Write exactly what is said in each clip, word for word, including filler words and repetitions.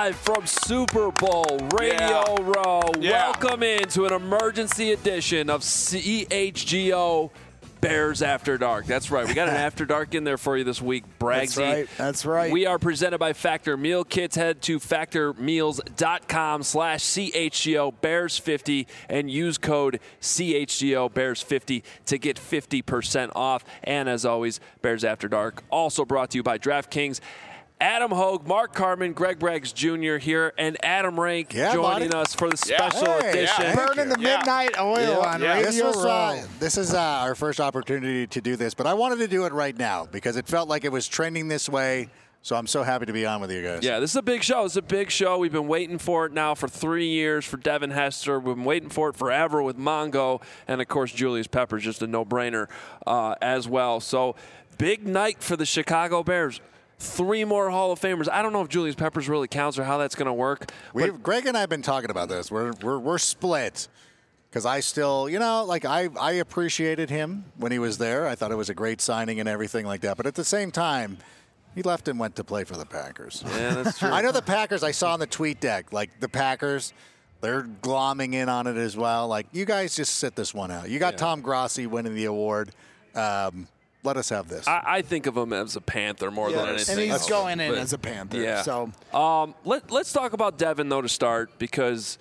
live from Super Bowl Radio Yeah. Row. Yeah. Welcome into an emergency edition of C H G O Bears After Dark. That's right. We got an After Dark in there for you this week, Bragsy. That's right. That's right. We are presented by Factor Meal Kits. Head to factor meals dot com slash C H G O Bears fifty and use code C H G O Bears fifty to get fifty percent off. And as always, Bears After Dark also brought to you by DraftKings. Adam Hogue, Mark Carman, Greg Braggs Junior here, and Adam Rank Yeah, joining buddy. us for the Yeah. special Hey, edition. yeah. Burning the Yeah. midnight oil Yeah. on Yeah. This Radio was, Row. uh, this is uh, our first opportunity to do this, but I wanted to do it right now because it felt like it was trending this way. So I'm so happy to be on with you guys. Yeah, this is a big show. It's a big show. We've been waiting for it now for three years for Devin Hester. We've been waiting for it forever with Mongo. And, of course, Julius Peppers, just a no-brainer uh, as well. So, big night for the Chicago Bears. Three more Hall of Famers. I don't know if Julius Peppers really counts or how that's going to work. We've, Greg and I have been talking about this. We're we're, we're split because I still, you know, like I, I appreciated him when he was there. I thought it was a great signing and everything like that. But at the same time, he left and went to play for the Packers. Yeah, that's true. I know the Packers, I saw on the tweet deck, like the Packers, they're glomming in on it as well. Like, you guys just sit this one out. You got Yeah. Tom Grossi winning the award. Um, let us have this. I, I think of him as a Panther more than Yes. anything And he's else. going in But- as a Panther. Yeah. So Um, let, let's talk about Devin, though, to start, because,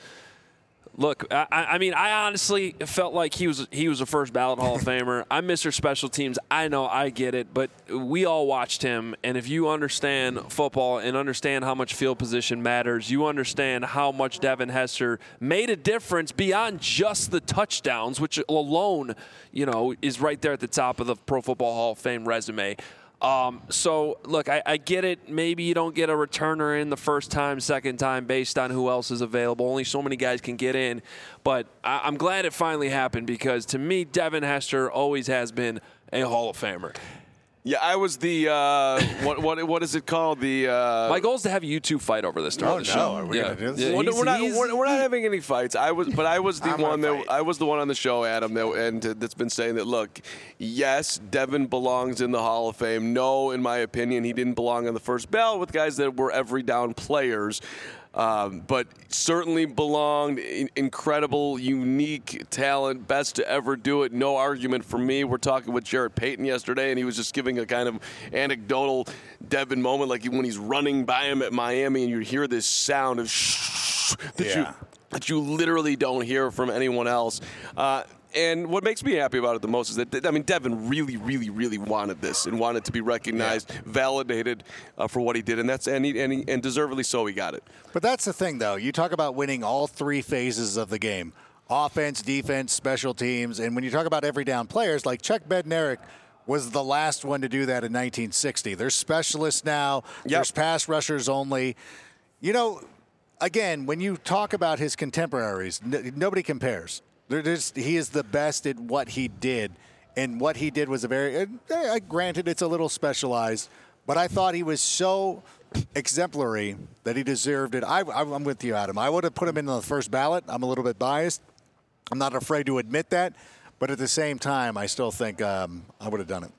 look, I, I mean, I honestly felt like he was he was a first ballot Hall of Famer. I'm Mister Special Teams. I know, I get it, but we all watched him, and if you understand football and understand how much field position matters, you understand how much Devin Hester made a difference beyond just the touchdowns, which alone, you know, is right there at the top of the Pro Football Hall of Fame resume. Um, so, look, I, I get it. Maybe you don't get a returner in the first time, second time, based on who else is available. Only so many guys can get in. But I, I'm glad it finally happened because, to me, Devin Hester always has been a Hall of Famer. Yeah, I was the uh, what what what is it called? The uh, My goal is to have you two fight over this during Oh, the no. show. Are we yeah. gonna do this? Yeah, Well, no, he's- we're not he's- we're, we're not having any fights. I was, but I was the I'm one gonna that fight. I was the one on the show, Adam, that and uh, that's been saying that. Look, yes, Devin belongs in the Hall of Fame. No, in my opinion, he didn't belong on the first ballot with guys that were every down players. Um, but certainly belonged. In, incredible, unique talent, best to ever do it. No argument for me. We're talking with Jarrett Payton yesterday, and he was just giving a kind of anecdotal Devin moment, like when he's running by him at Miami, and you hear this sound of shh that you Yeah. that you literally don't hear from anyone else. Uh, And what makes me happy about it the most is that, I mean, Devin really, really, really wanted this and wanted to be recognized, validated uh, for what he did, and that's and, he, and, he, and deservedly so he got it. But that's the thing, though. You talk about winning all three phases of the game: offense, defense, special teams. And when you talk about every down players, like Chuck Bednarik was the last one to do that in nineteen sixty. There's specialists now. Yep. There's pass rushers only. You know, again, when you talk about his contemporaries, n- nobody compares. They're just, he is the best at what he did. And what he did was a very, uh, granted, it's a little specialized, but I thought he was so exemplary that he deserved it. I, I'm with you, Adam. I would have put him in the first ballot. I'm a little bit biased. I'm not afraid to admit that. But at the same time, I still think um, I would have done it.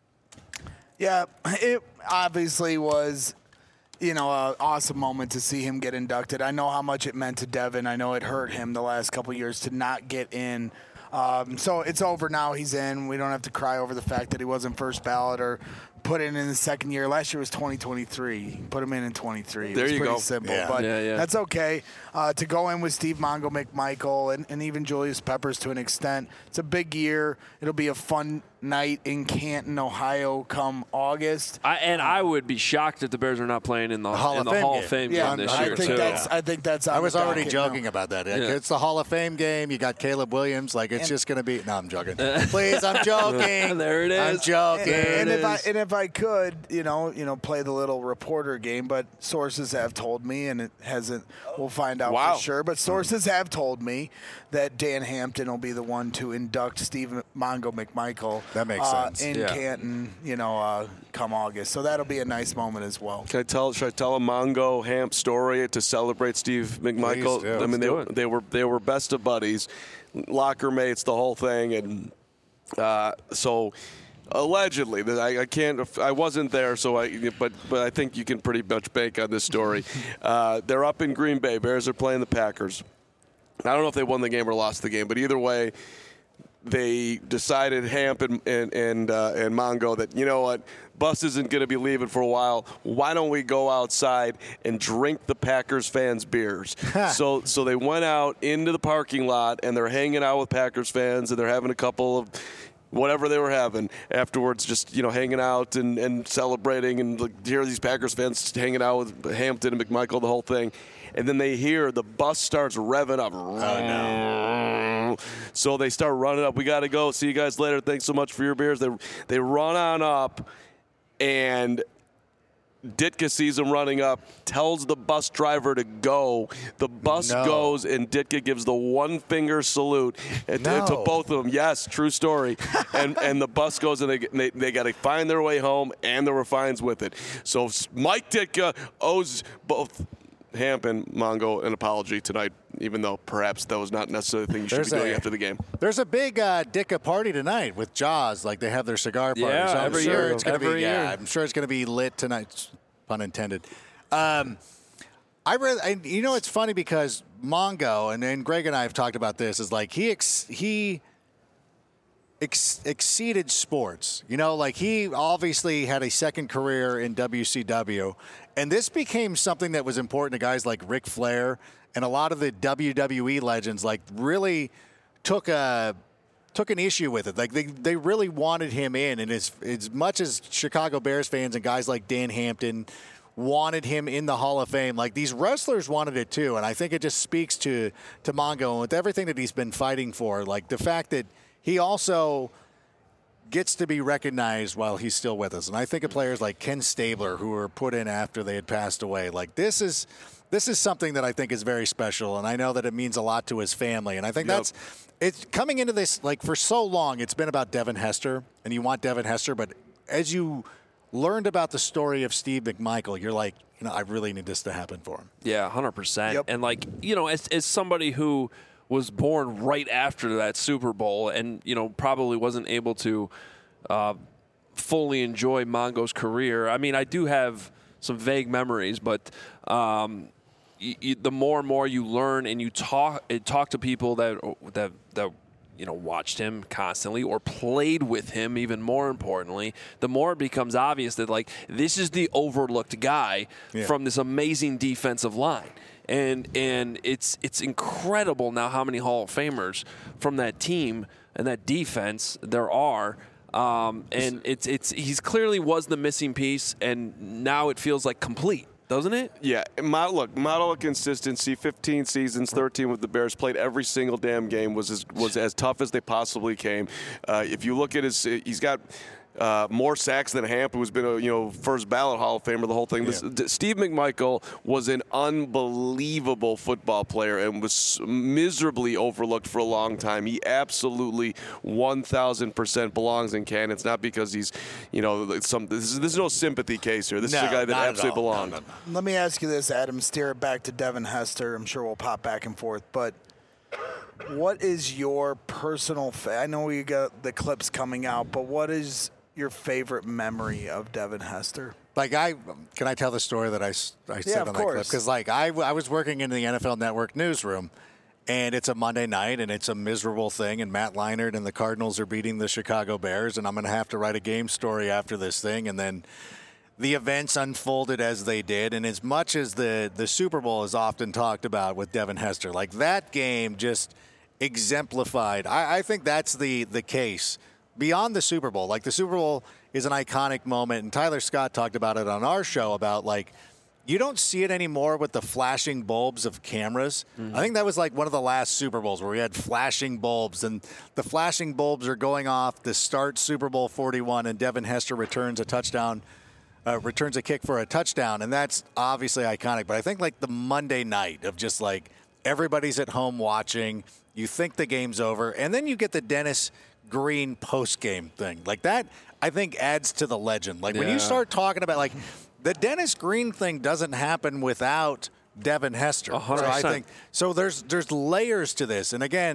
yeah, it obviously was, you know, an awesome moment to see him get inducted. I know how much it meant to Devin. I know it hurt him the last couple of years to not get in. Um, so it's over now. He's in. We don't have to cry over the fact that he wasn't first ballot or put in in the second year. Last year was twenty twenty-three. Put him in in twenty-three. It There was you pretty go. simple, Yeah. but Yeah, yeah. that's okay. Uh, to go in with Steve Mongo McMichael and, and even Julius Peppers to an extent, it's a big year. It'll be a fun night in Canton, Ohio come August. I, and I would be shocked if the Bears are not playing in the, Hall in of the Fame Hall game. of Fame Yeah, game this I year, think too. that's I think that's on I was the already docket joking now. about that. Yeah. It's the Hall of Fame game. You got Caleb Williams. Like, it's just going to be – no, I'm joking. Please, I'm joking. There it I'm is. joking. And, and if I is. and if I could, you know, you know, play the little reporter game, but sources have told me, and it hasn't. We'll find out Wow. for sure. But sources have told me that Dan Hampton will be the one to induct Steve Mongo McMichael. That makes uh, sense. in Yeah. Canton, you know, uh, come August. So that'll be a nice moment as well. Can I tell? Should I tell a Mongo Hamp story to celebrate Steve McMichael? Please do. I mean, they, Let's do it. they were they were best of buddies, locker mates, the whole thing, and uh, so Allegedly, I, I can't. I wasn't there, so I. But but I think you can pretty much bank on this story. uh, they're up in Green Bay. Bears are playing the Packers. I don't know if they won the game or lost the game, but either way, they decided, Hamp and and and, uh, and Mongo, that, you know what, Bus isn't going to be leaving for a while. Why don't we go outside and drink the Packers fans' beers? so so they went out into the parking lot, and they're hanging out with Packers fans, and they're having a couple of whatever they were having afterwards, just, you know, hanging out and, and celebrating, and like, here are these Packers fans hanging out with Hampton and McMichael, the whole thing. And then they hear the bus starts revving up. Oh, no. So they start running up. We got to go. See you guys later. Thanks so much for your beers. They, they run on up, and Ditka sees him running up, tells the bus driver to go. The bus no. goes, and Ditka gives the one-finger salute to, no. to both of them. Yes, true story. and and the bus goes, and they they, they got to find their way home, and there were fines with it. So Mike Ditka owes both Hamp and Mongo an apology tonight, even though perhaps that was not necessarily the thing you should There's be doing a, after the game. There's a big uh, Ditka party tonight with Jaws. Like, they have their cigar party. Yeah, so I'm every sure year. It's gonna Every be, year. Yeah, I'm sure it's going to be lit tonight, pun intended. Um, I read, and you know, it's funny because Mongo, and, and Greg and I have talked about this, is like he ex, he ex, exceeded sports. You know, like he obviously had a second career in W C W, and this became something that was important to guys like Ric Flair and a lot of the W W E legends. Like, really took a took an issue with it. Like, they they really wanted him in, and as as much as Chicago Bears fans and guys like Dan Hampton wanted him in the Hall of Fame, like, these wrestlers wanted it too. And I think it just speaks to to Mongo, and with everything that he's been fighting for, like the fact that he also gets to be recognized while he's still with us. And I think of players like Ken Stabler, who were put in after they had passed away. Like, this is this is something that I think is very special, and I know that it means a lot to his family. And I think Yep. that's it's coming into this, like, for so long it's been about Devin Hester, and you want Devin Hester, but as you learned about the story of Steve McMichael, you're like, you know, I really need this to happen for him. Yeah, one hundred percent. Yep. And, like, you know, as, as somebody who was born right after that Super Bowl and, you know, probably wasn't able to uh, fully enjoy Mongo's career, I mean, I do have some vague memories, but um, y- y- the more and more you learn and you talk and talk to people that that that you know, watched him constantly or played with him, even more importantly, the more it becomes obvious that, like, this is the overlooked guy Yeah. from this amazing defensive line. And and it's it's incredible now how many Hall of Famers from that team and that defense there are. Um, and it's it's he's clearly was the missing piece, and now it feels like complete, doesn't it? Yeah, mo- look, model of consistency. fifteen seasons, thirteen with the Bears, played every single damn game. Was as, was as tough as they possibly came. Uh, if you look at his, he's got uh, more sacks than Hamp, who's been a you know first ballot Hall of Famer. The whole thing. This, d- Steve McMichael was an unbelievable football player and was miserably overlooked for a long time. He absolutely one thousand percent belongs in canon. It's not because he's, you know, some. This is, this is no sympathy case here. This No, is a guy that not at absolutely all. belongs. No, no, no. Let me ask you this, Adam. Steer it back to Devin Hester. I'm sure we'll pop back and forth. But what is your personal fa- I know we got the clips coming out, but what is your favorite memory of Devin Hester? Like, I can I tell the story that I, s- I said of on that clip? course. Because, like, I, I was working in the N F L Network newsroom, and it's a Monday night, and it's a miserable thing, and Matt Leinart and the Cardinals are beating the Chicago Bears, and I'm going to have to write a game story after this thing, and then the events unfolded as they did. And as much as the, the Super Bowl is often talked about with Devin Hester, like, that game just exemplified. I, I think that's the, the case. Beyond the Super Bowl, like, the Super Bowl is an iconic moment, and Tyler Scott talked about it on our show about, like, you don't see it anymore with the flashing bulbs of cameras. Mm-hmm. I think that was like one of the last Super Bowls where we had flashing bulbs, and the flashing bulbs are going off to start Super Bowl forty-one, and Devin Hester returns a touchdown, uh, returns a kick for a touchdown, and that's obviously iconic. But I think, like, the Monday night of just, like, everybody's at home watching, you think the game's over, and then you get the Dennis Green post-game thing. Like, that, I think, adds to the legend. Like, when Yeah. you start talking about, like, the Dennis Green thing doesn't happen without Devin Hester. one hundred So I percent. think so. There's there's layers to this, and again,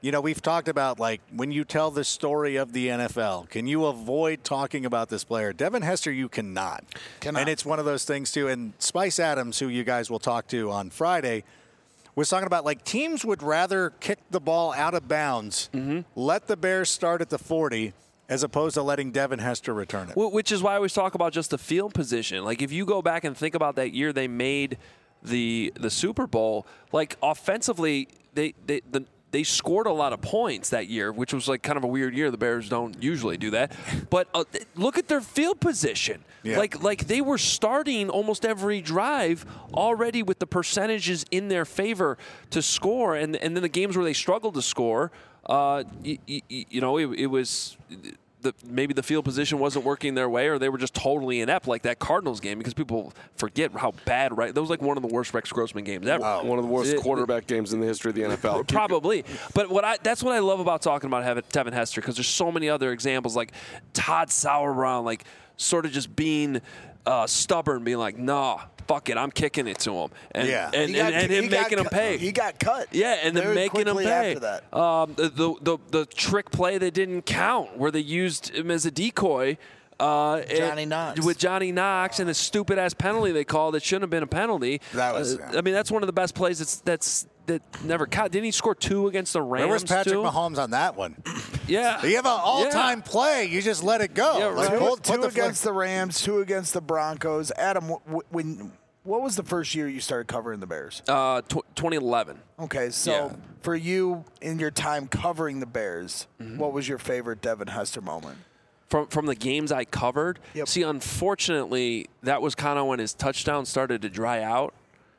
you know, we've talked about, like, when you tell the story of the N F L, can you avoid talking about this player? Devin Hester, you cannot. Cannot. And it's one of those things, too. And Spice Adams, who you guys will talk to on Friday, was talking about, like, teams would rather kick the ball out of bounds, mm-hmm. let the Bears start at the forty, as opposed to letting Devin Hester return it. Which is why I always talk about just the field position. Like, if you go back and think about that year they made the the Super Bowl, like, offensively, they they the They scored a lot of points that year, which was like kind of a weird year. The Bears don't usually do that. But uh, look at their field position. Yeah. Like like they were starting almost every drive already with the percentages in their favor to score. And and then the games where they struggled to score, uh, you, you, you know, it, it was the, maybe the field position wasn't working their way, or they were just totally inept, like that Cardinals game, because people forget how bad, right? That was like one of the worst Rex Grossman games ever. Wow. One of the worst it, quarterback it, games in the history of the N F L. Probably. But what I that's what I love about talking about Devin Hester, because there's so many other examples, like Todd Sauerbrunn, like sort of just being uh, stubborn, being like, nah, fuck it, I'm kicking it to him. And, yeah. and, got, and, and him making him pay. He got cut. Yeah, and then making him pay. After that. Um, the, the, the, the trick play that didn't count, where they used him as a decoy. Uh, Johnny Knox. With Johnny Knox and a stupid-ass penalty they called that shouldn't have been a penalty. That was. Uh, I mean, that's one of the best plays that's that's that never caught. Didn't he score two against the Rams? Where was Patrick too? Mahomes on that one? Yeah. You have an all-time yeah. play. You just let it go. Yeah, like, right. pull, two the against flag. the Rams, two against the Broncos. Adam, when what was the first year you started covering the Bears? Uh, tw- twenty eleven. Okay, so Yeah. for you in your time covering the Bears, Mm-hmm. what was your favorite Devin Hester moment? From from the games I covered, Yep. see, unfortunately, that was kind of when his touchdown started to dry out.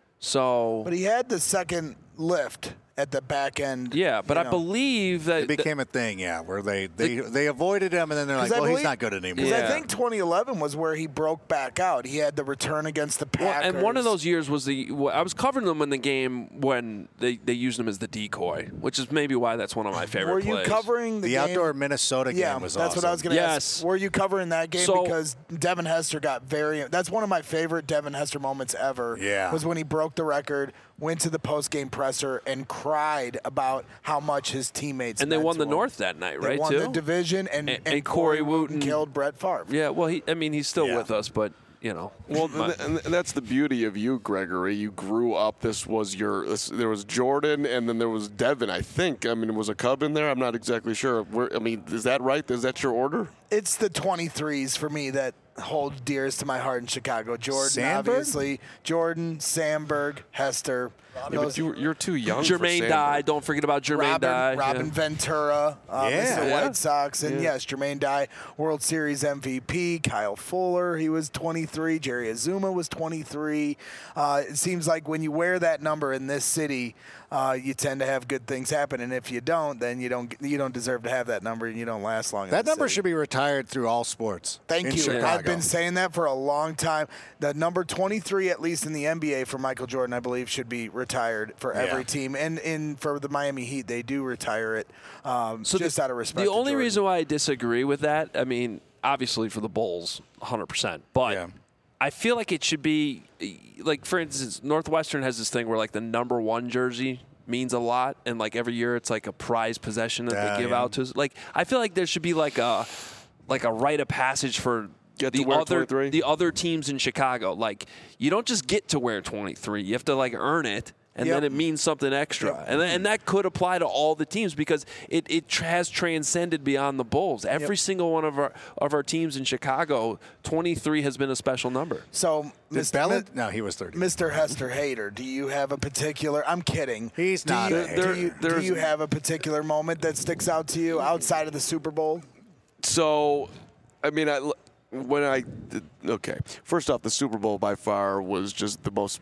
So, But he had the second lift at the back end. yeah, but you I know. believe that It became a thing, yeah, where they, they, they avoided him, and then they're like, 'Cause I well, he's believe- not good anymore. Because Yeah. I think twenty eleven was where he broke back out. He had the return against the Well, Packers. and one of those years was the I was covering them in the game when they, they used him as the decoy, which is maybe why that's one of my favorite Were you plays. covering the, The game? outdoor Minnesota Yeah, game was that's awesome. what I was going to Yes. ask. Were you covering that game? So- Because Devin Hester got very. That's one of my favorite Devin Hester moments ever. Yeah. Was when he broke the record, went to the post-game presser, and cried about how much his teammates. And they meant won to the him. North that night, They right? won too. the division, and, And- and, and Corey Corey Wooten Wooten. killed Brett Favre. Yeah, well, he I mean he's still Yeah. with us, but you know. Well, my- and and that's the beauty of you, Gregory. You grew up. This was your. This, there was Jordan, and then there was Devin. I think. I mean, was a Cub in there? I'm not exactly sure. Where, I mean, is that right? Is that your order? It's the twenty-threes for me that hold dearest to my heart in Chicago. Jordan, Sandberg? obviously. Jordan, Sandberg, Hester. Yeah, Those- but you, you're too young. for Jermaine Sandberg. Dye. Don't forget about Jermaine Robin, Dye. Robin yeah. Ventura, uh, Yeah. Mister Yeah. White Sox, and yes, Jermaine Dye, World Series M V P. Kyle Fuller, he was twenty-three. Jerry Azuma was twenty-three. Uh, it seems like when you wear that number in this city, uh, you tend to have good things happen, and if you don't, then you don't you don't deserve to have that number, and you don't last long. in That the number city. should be retired through all sports. Thank in you. Chicago. I've been saying that for a long time. The number twenty-three, at least in the N B A, for Michael Jordan, I believe, should be retired for every Yeah. team. And in for the Miami Heat, they do retire it, um, just the, out of respect. The to only Jordan. reason why I disagree with that, I mean, obviously for the Bulls, one hundred percent. But Yeah. I feel like it should be, like, for instance, Northwestern has this thing where, like, the number one jersey means a lot, and, like, every year it's, like, a prize possession that Yeah, they give yeah. out to us. Like, I feel like there should be, like, a, like, a rite of passage for Get to the wear other twenty-three? the other teams in Chicago. Like, you don't just get to wear twenty-three. You have to, like, earn it. And Yep. then it means something extra. Yep. And, th- and that could apply to all the teams because it, it tr- has transcended beyond the Bulls. Every Yep. single one of our of our teams in Chicago, twenty-three has been a special number. So, Did Mister Bell- Mi- no, he was thirty. Mister Hester Hater, do you have a particular? I'm kidding. He's do not You, a hater. do, you, do There's- you have a particular moment that sticks out to you outside of the Super Bowl? So, I mean, I when I did, okay. First off, the Super Bowl by far was just the most.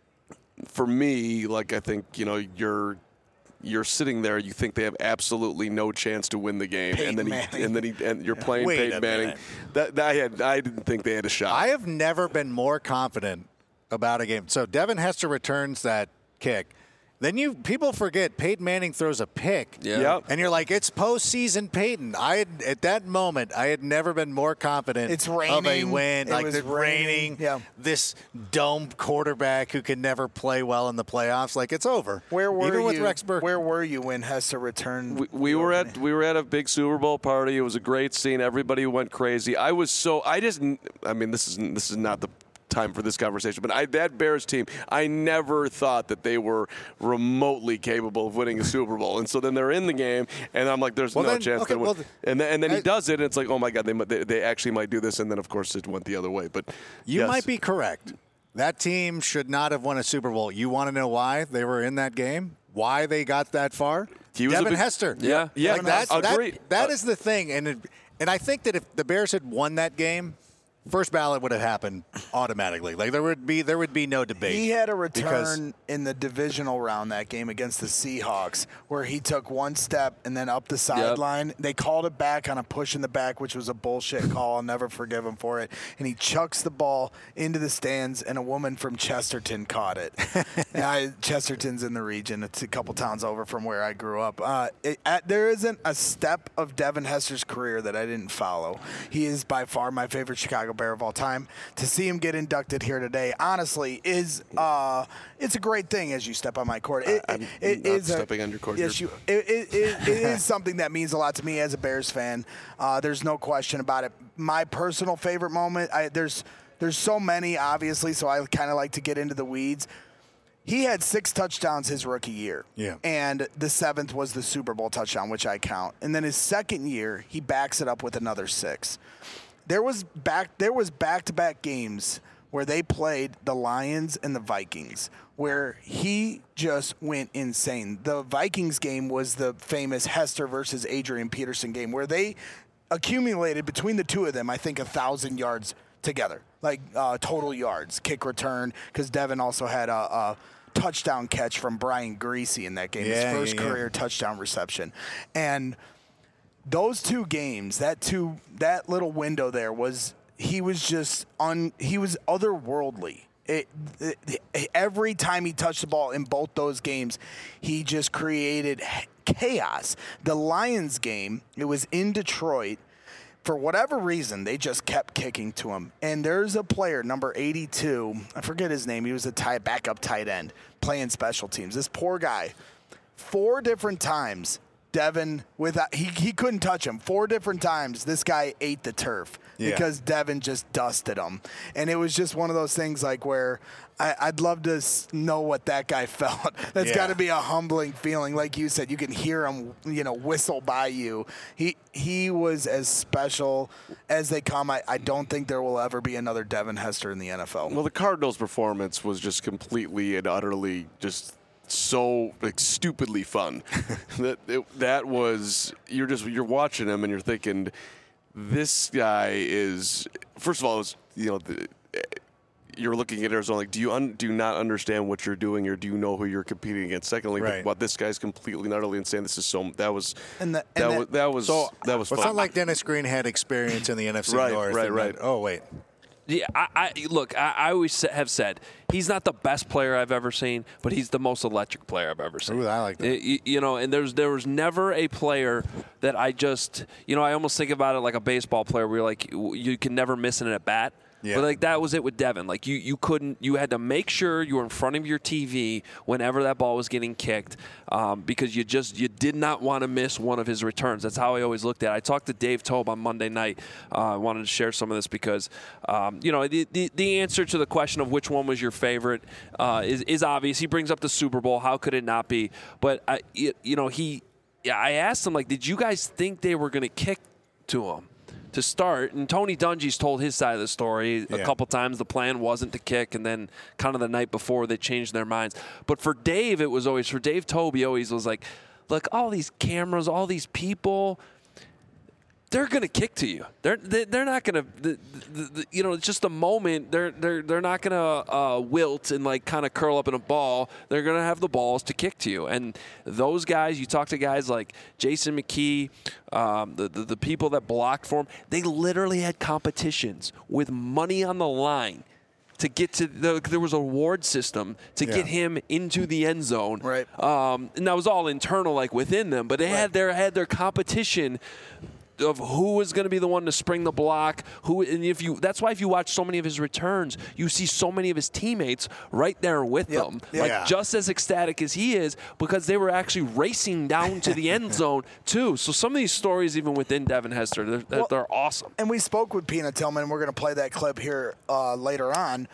For me, like I think you know you're you're sitting there, you think they have absolutely no chance to win the game, Peyton and then Manning. he, and then he, and you're playing Wait Peyton a Manning. minute. That, that I had, I didn't think they had a shot. I have never been more confident about a game. So Devin Hester returns that kick, Then you people forget Peyton Manning throws a pick. Yeah. Yep. And you're like, it's postseason Peyton. I had, at that moment, I had never been more confident It's of a raining. win. It like was the raining. raining. Yeah. This dome quarterback who can never play well in the playoffs. Like, it's over. Where were Even you? with Rex Burkhead. Where were you when Hester returned? We, we the were opening? at we were at a big Super Bowl party. It was a great scene. Everybody went crazy. I was so I just I mean this is this is not the time for this conversation, but I, that Bears team, I never thought that they were remotely capable of winning a Super Bowl. And so then they're in the game, and I'm like, there's Well, no then- chance okay, they win. well, and then, and then I- he does it, and it's like, oh my God, they might- they, they actually might do this. And then of course it went the other way. But You yes. might be correct. That team should not have won a Super Bowl. You want to know why they were in that game? Why they got that far? He was a Devin big- Hester. Yeah. Yeah, Like that, agreed. that, that Uh, is the thing. And, it, and I think that if the Bears had won that game, first ballot would have happened automatically. Like there would be there would be no debate. He had a because- return in the divisional round that game against the Seahawks where he took one step and then up the sideline. They called it back on a push in the back, which was a bullshit call. I'll never forgive him for it. And he chucks the ball into the stands, and a woman from Chesterton caught it. And I, Chesterton's in the region. It's a couple towns over from where I grew up. Uh, it, at, there isn't a step of Devin Hester's career that I didn't follow. He is by far my favorite Chicago Bear of all time. To see him get inducted here today, honestly, is uh, it's a great thing as you step on my court. It, I'm it not is a- stepping on your court. Yes, You're- you. It, it, it, it is something that means a lot to me as a Bears fan. Uh, there's no question about it. My personal favorite moment. I, there's there's so many, obviously, so I kind of like to get into the weeds. He had six touchdowns his rookie year. Yeah. And the seventh was the Super Bowl touchdown, which I count. And then his second year, he backs it up with another six. There was back there was back-to-back games where they played the Lions and the Vikings, where he just went insane. The Vikings game was the famous Hester versus Adrian Peterson game, where they accumulated between the two of them, I think, a thousand yards together, like uh, total yards, kick return, because Devin also had a, a touchdown catch from Brian Greasy in that game, Yeah, his first yeah, yeah. career touchdown reception, and those two games, that two, that little window there was, he was just un, he was otherworldly. It, it, every time he touched the ball in both those games, he just created chaos. The Lions game, it was in Detroit. For whatever reason, they just kept kicking to him. And there's a player, number eighty-two, I forget his name. He was a tie, backup tight end playing special teams. This poor guy, four different times, Devin, without, he, he couldn't touch him. Four different times, this guy ate the turf Yeah. because Devin just dusted him. And it was just one of those things like where I, I'd love to s- know what that guy felt. That's Yeah. got to be a humbling feeling. Like you said, you can hear him, you know, whistle by you. He he was as special as they come. I, I don't think there will ever be another Devin Hester in the N F L. Well, the Cardinals' performance was just completely and utterly just so like stupidly fun. that it, that was you're just you're watching him and you're thinking, this guy is first of all, it's, you know. The, you're looking at Arizona like, do you un, do you not understand what you're doing, or do you know who you're competing against? Secondly, Right. well, this guy's completely and utterly insane. This is so that was And the- that, and was that- that was So, that was Well, it's fun. not like Dennis Green had experience in the N F C Right, North. right, and right. then- oh, wait. Yeah, I, I look. I, I always sa- have said he's not the best player I've ever seen, but he's the most electric player I've ever seen. Ooh, I like that. It- you, you know, and there's there was never a player that I just, you know, I almost think about it like a baseball player where you're like you, you can never miss an at bat. Yeah. But like that was it with Devin. Like you, you couldn't. You had to make sure you were in front of your T V whenever that ball was getting kicked, um, because you just you did not want to miss one of his returns. That's how I always looked at it. I talked to Dave Tobe on Monday night. Uh, I wanted to share some of this because, um, you know, the, the the answer to the question of which one was your favorite uh, is is obvious. He brings up the Super Bowl. How could it not be? But I, you know, he. Yeah, I asked him like, did you guys think they were going to kick to him to start? And Tony Dungy's told his side of the story a Yeah. couple times. The plan wasn't to kick, and then kind of the night before they changed their minds. But for Dave, it was always, for Dave Tobe, always was like, look, all these cameras, all these people, they're going to kick to you. They're they, they're not going to, the, the, the, you know, it's just a moment. They're they're they're not going to uh, wilt and like kind of curl up in a ball. They're going to have the balls to kick to you. And those guys, you talk to guys like Jason McKee, um, the, the the people that blocked for him. They literally had competitions with money on the line to get to the, there was a reward system to Yeah. get him into the end zone. Right. Um, and that was all internal, like within them. But they Right. had their had their competition of who was going to be the one to spring the block. Who, and if you, that's why if you watch so many of his returns, you see so many of his teammates right there with Yep. them, Yeah. like just as ecstatic as he is, because they were actually racing down to the end zone too. So some of these stories, even within Devin Hester, they're, they're, Well, they're awesome. And we spoke with Peanut Tillman, and we're going to play that clip here uh, later on.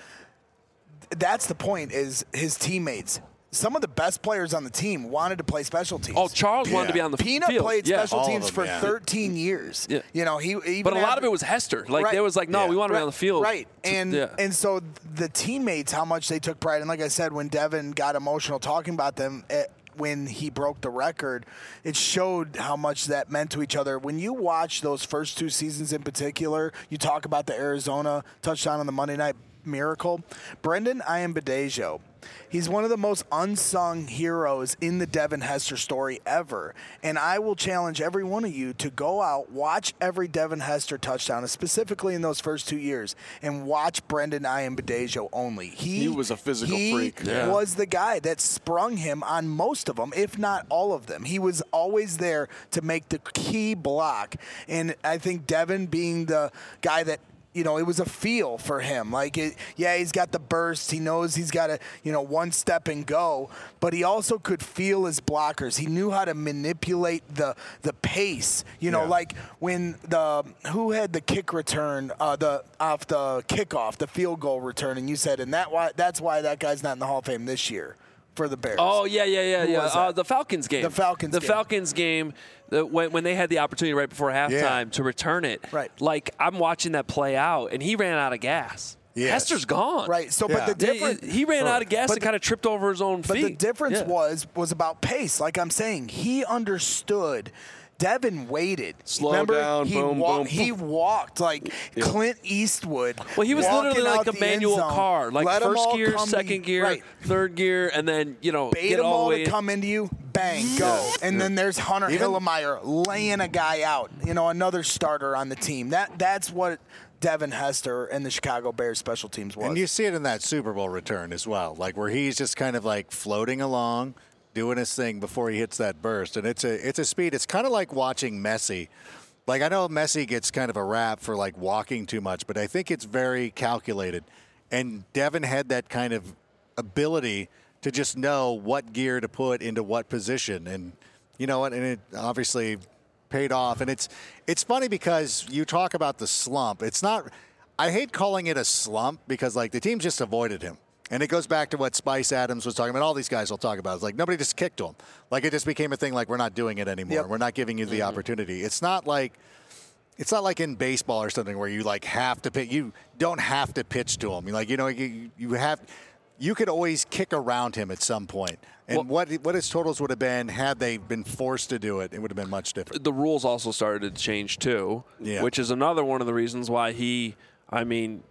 That's the point, is his teammates. Some of the best players on the team wanted to play special teams. Oh, Charles wanted to Yeah. be on the Peanut field. played yeah. special all of teams them, for yeah. thirteen years. Yeah. You know, he even But a lot after- of it was Hester. Like, Right. they was like, no, Yeah. we want to be Right, on the field. Right. And yeah. and so the teammates, how much they took pride. And like I said, when Devin got emotional talking about them eh, when he broke the record, it showed how much that meant to each other. When you watch those first two seasons in particular, you talk about the Arizona touchdown on the Monday Night Miracle. Brendan Iambadejo, he's one of the most unsung heroes in the Devin Hester story ever. And I will challenge every one of you to go out, watch every Devin Hester touchdown, specifically in those first two years, and watch Brendan Iambadejo only. He, He was a physical he freak. Yeah. was the guy that sprung him on most of them, if not all of them. He was always there to make the key block. And I think Devin being the guy that, you know, it was a feel for him. Like, it, yeah, he's got the burst. He knows he's got to, you know, one step and go. But he also could feel his blockers. He knew how to manipulate the the pace. You know, Yeah. like when the who had the kick return, uh, the off the kickoff, the field goal return, and you said, and that why that's why that guy's not in the Hall of Fame this year for the Bears. Oh yeah, yeah, yeah, Who yeah. was Uh, that? the Falcons game. The Falcons The game. Falcons game. The, when, when they had the opportunity right before halftime Yeah. to return it. Right. Like, I'm watching that play out, and he ran out of gas. Yes. Hester's gone. Right. So, Yeah. but the He- difference. He ran out of gas But and the- kind of tripped over his own But feet. the difference Yeah. was was about pace. Like I'm saying, he understood. Devin waited. Slow Remember, down, he boom, wa- boom. He walked like Clint Eastwood. Well, he was walking literally out like a the end manual zone. car, like Let 'em first all gear, come to second you. gear, Right. third gear, and then you know Bait get them all all the to way in. come into you, bang, go. And then there's Hunter Even- Hillemeyer laying a guy out. You know, another starter on the team. That that's what Devin Hester and the Chicago Bears special teams was. And you see it in that Super Bowl return as well, like where he's just kind of like floating along, doing his thing before he hits that burst. And it's a it's a speed. It's kind of like watching Messi. Like, I know Messi gets kind of a rap for like walking too much, but I think it's very calculated. And Devin had that kind of ability to just know what gear to put into what position. And you know what? And it obviously paid off. And it's it's funny because you talk about the slump. It's not – I hate calling it a slump because, like, the team just avoided him. And it goes back to what Spice Adams was talking about. All these guys will talk about. It's like nobody just kicked to him. Like, it just became a thing like we're not doing it anymore. Yep. We're not giving you the Mm-hmm. opportunity. It's not like – it's not like in baseball or something where you, like, have to pitch. You don't have to pitch to him. Like, you know, you, you have – you could always kick around him at some point. And Well- what what his totals would have been had they been forced to do it, it would have been much different. The rules also started to change too, Yeah. which is another one of the reasons why he, I mean,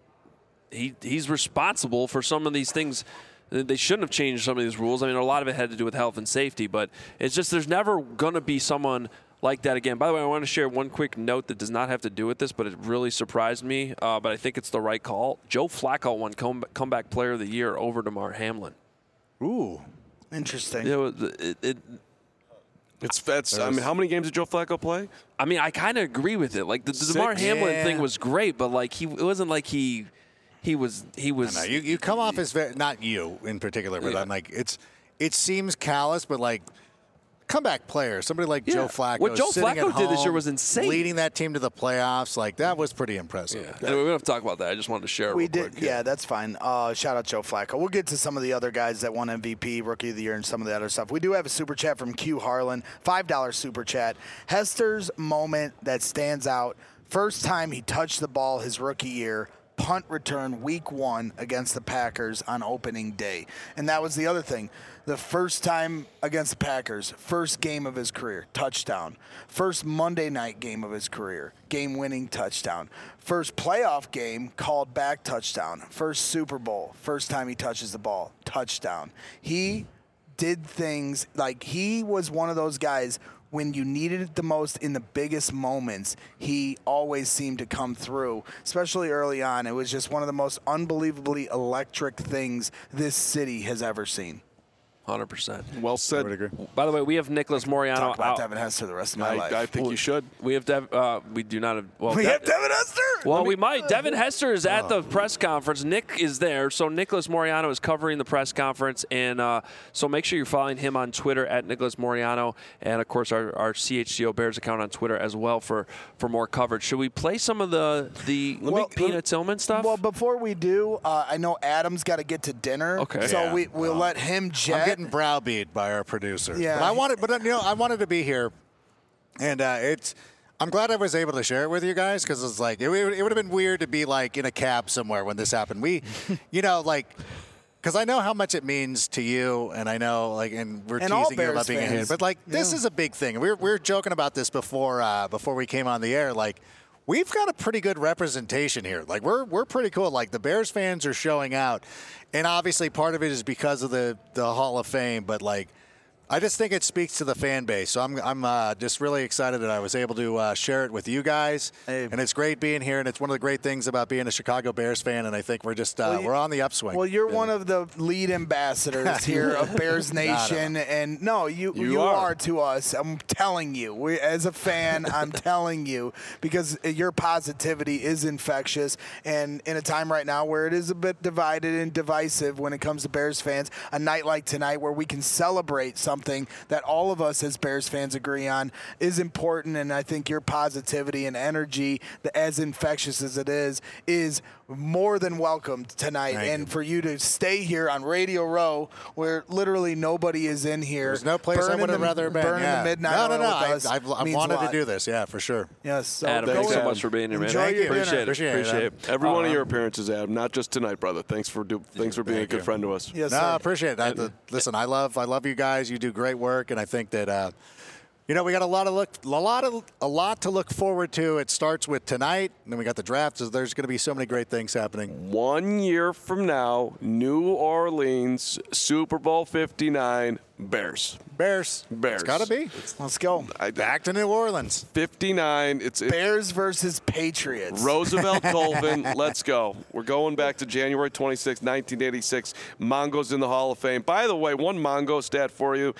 he he's responsible for some of these things. They shouldn't have changed some of these rules. I mean, a lot of it had to do with health and safety, but it's just there's never going to be someone like that again. By the way, I want to share one quick note that does not have to do with this, but it really surprised me, uh, but I think it's the right call. Joe Flacco won come, comeback player of the year over DeMar Hamlin. Ooh. Interesting. It was, it, it, It's that's. I mean, how many games did Joe Flacco play? I mean, I kind of agree with it. Like, the, the DeMar Hamlin Yeah. thing was great, but, like, he it wasn't like he he was – he was No, you, you come off as very, not you in particular, but Yeah. I'm like, it's it seems callous, but like comeback player, somebody like Yeah. Joe Flacco. What Joe sitting Flacco at did this year home, was insane. leading that team to the playoffs. Like, that was pretty impressive. Yeah. Anyway, we don't have to talk about that. I just wanted to share it We real did, quick. yeah, that's fine. Uh, shout out Joe Flacco. We'll get to some of the other guys that won M V P, Rookie of the Year, and some of the other stuff. We do have a super chat from Q Harlan, five dollar super chat. Hester's moment that stands out: first time he touched the ball his rookie year, punt return week one against the Packers on opening day, and that was the other thing. The first time against the Packers, first game of his career, touchdown. First Monday night game of his career, game-winning touchdown. First playoff game, called back touchdown. First Super Bowl, first time he touches the ball, touchdown. He did things like he was one of those guys. When you needed it the most in the biggest moments, he always seemed to come through, especially early on. It was just one of the most unbelievably electric things this city has ever seen. one hundred percent. Well said. I would agree. By the way, we have Nicholas Moriano Talk about out. Devin Hester the rest of my I, life. I think you should. We have Dev, uh, we do not have. Well, we De- have Devin Hester. Well, we might. Devin Hester is at the press conference. Nick is there, so Nicholas Moriano is covering the press conference, and uh, so make sure you're following him on Twitter at Nicholas Moriano, and of course our, our C H G O Bears account on Twitter as well for, for more coverage. Should we play some of the the Well, Peanut Tillman stuff? Well, before we do, uh, I know Adam's got to get to dinner. Okay. So Yeah. we we'll let him jet. I'm getting browbeat by our producer. Yeah. But I wanted, but you know, I wanted to be here, and uh, it's. I'm glad I was able to share it with you guys because it's like it, it would have been weird to be like in a cab somewhere when this happened. We, you know, like. Because I know how much it means to you, and I know, like, and we're And all teasing you Bears about being a fans. hit. But like, this Yeah. is a big thing. We were, we were joking about this before uh, before we came on the air. Like, we've got a pretty good representation here. Like, we're we're pretty cool. Like, the Bears fans are showing out, and obviously part of it is because of the the Hall of Fame. But like, I just think it speaks to the fan base. So I'm I'm uh, just really excited that I was able to uh, share it with you guys. Hey. And it's great being here, and it's one of the great things about being a Chicago Bears fan. And I think we're just uh, Well, you- we're on the upswing. Well, you're one of the lead ambassadors here of Bears Nation, and no, you You you, are. are. to us. I'm telling you, we, as a fan, I'm telling you because your positivity is infectious, and in a time right now where it is a bit divided and divisive when it comes to Bears fans, a night like tonight where we can celebrate something that all of us as Bears fans agree on is important, and I think your positivity and energy, as infectious as it is, is more than welcome tonight. Thank and you. for you to stay here on Radio Row, where literally nobody is in here. There's no place I burning would have the- rather been. Burning yeah. the midnight no, no, oil no. with I, us I've, I've means a wanted to lot. do this. Yeah, for sure. Yes. So Adam, go thanks so ahead. much for being here, man. Enjoy your Appreciate dinner. it. Appreciate it, Appreciate Adam. it. Every one of Um, your appearances, Adam, not just tonight, brother. Thanks for do, thanks for being Thank a good you. friend to us. Yes, No, sir. I appreciate it. I, the, listen, I love I love you guys. You do great work, and I think that uh, you know we got a lot of look a lot of a lot to look forward to. It starts with tonight, and then we got the draft. So there's going to be so many great things happening. One year from now, New Orleans, Super Bowl fifty-nine, Bears. Bears, Bears. It's got to be Let's go. I, back to New Orleans. fifty-nine. It's, it's Bears versus Patriots. Roosevelt Colvin. Let's go. We're going back to January twenty-sixth, nineteen eighty-six. Mongo's in the Hall of Fame. By the way, one Mongo stat for you.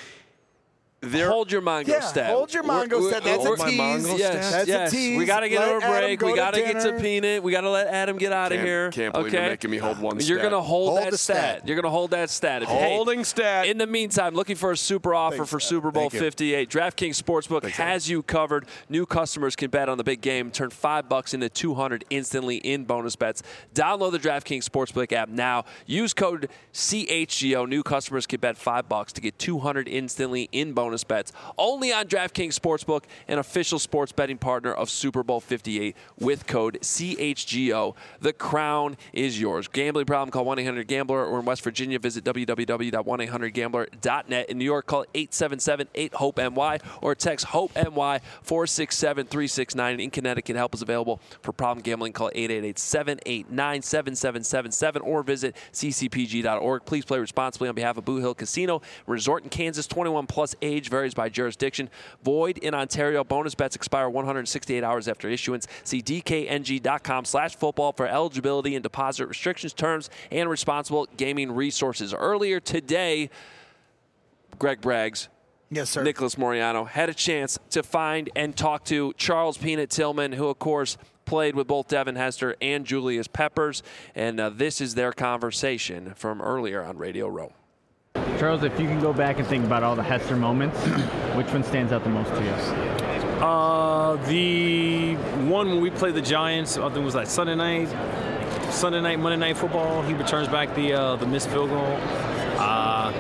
There, Hold your Mongo Yeah, stat. hold your We're- Mongo we're- stat. That's Hold a my tease. Mongo Yes, stat. That's yes. a tease. We got to get Let to a Adam break. go We to got to get to dinner. Peanut. We got to let Adam get out of Can't- here. can't believe okay? you're making me hold one You're stat. gonna hold, Hold that the stat. stat. You're gonna hold that stat. If- hey, Holding stat. In the meantime, looking for a super offer Thanks, for Dad. Super Bowl Thank you. fifty-eight. DraftKings Sportsbook has you covered. New customers can bet on the big game. Turn five bucks into two hundred instantly in bonus bets. Download the DraftKings Sportsbook app now. Use code C H G O. New customers can bet five bucks to get two hundred instantly in bonus bets. Only on DraftKings Sportsbook, an official sports betting partner of Super Bowl fifty-eight with code C H G O. The crown is yours. Gambling problem? Call one eight hundred gambler, or in West Virginia, visit w w w dot one eight hundred gambler dot net. In New York, call eight seven seven eight hope N Y or text HOPE-N Y four six seven three six nine. In Connecticut, help is available for problem gambling. Call eight eight eight seven eight nine seven seven seven seven or visit c c p g dot org. Please play responsibly on behalf of Boo Hill Casino Resort in Kansas. twenty-one plus age varies by jurisdiction. Void in Ontario. Bonus bets expire one hundred sixty-eight hours after issuance. See d k n g dot com slash football for eligibility and deposit restrictions, terms, and responsible gaming resources. Earlier today, Greg Braggs, Yes, sir. Nicholas Moriano had a chance to find and talk to Charles Peanut Tillman, who, of course, played with both Devin Hester and Julius Peppers. And uh, this is their conversation from earlier on Radio Row. Charles, if you can go back and think about all the Hester moments, which one stands out the most to you? Uh, the one when we played the Giants, I think it was like Sunday night, Sunday night, Monday night football. He returns back the uh, the missed field goal. Uh,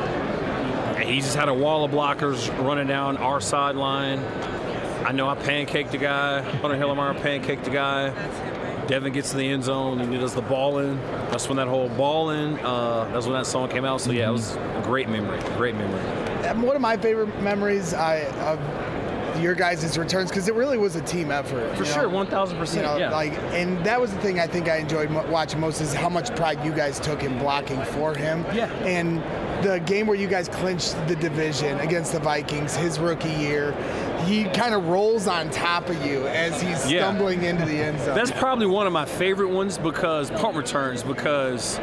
he just had a wall of blockers running down our sideline. I know I pancaked the guy. Hunter Hillemeyer pancaked the guy. Devin gets to the end zone and he does the ball in. That's when that whole ball in, uh, that's when that song came out. So, yeah, it was a great memory, great memory. Um, One of my favorite memories I, of your guys' returns, because it really was a team effort. For you sure, know? one thousand You percent, know, yeah. like, and that was the thing I think I enjoyed mo- watching most is how much pride you guys took in blocking for him. Yeah. And the game where you guys clinched the division against the Vikings, his rookie year, he kind of rolls on top of you as he's Yeah. stumbling into the end zone. That's probably one of my favorite ones because punt returns, because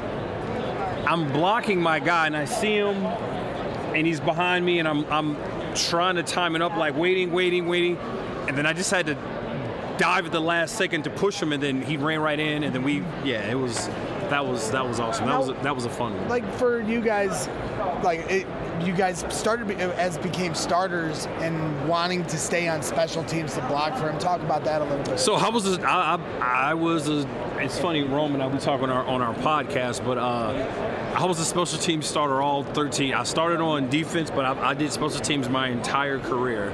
I'm blocking my guy and I see him and he's behind me and I'm I'm trying to time it up, like waiting, waiting, waiting, and then I just had to dive at the last second to push him, and then he ran right in, and then we, yeah, it was that was that was awesome. That was a, that was a fun one. Like for you guys, like it, you guys started be- as became starters and wanting to stay on special teams to block for him. Talk about that a little bit. So I was, a, I, I, I was. A, it's funny, Roman and I we talk on our on our podcast, but uh, I was a special teams starter all thirteen. I started on defense, but I, I did special teams my entire career.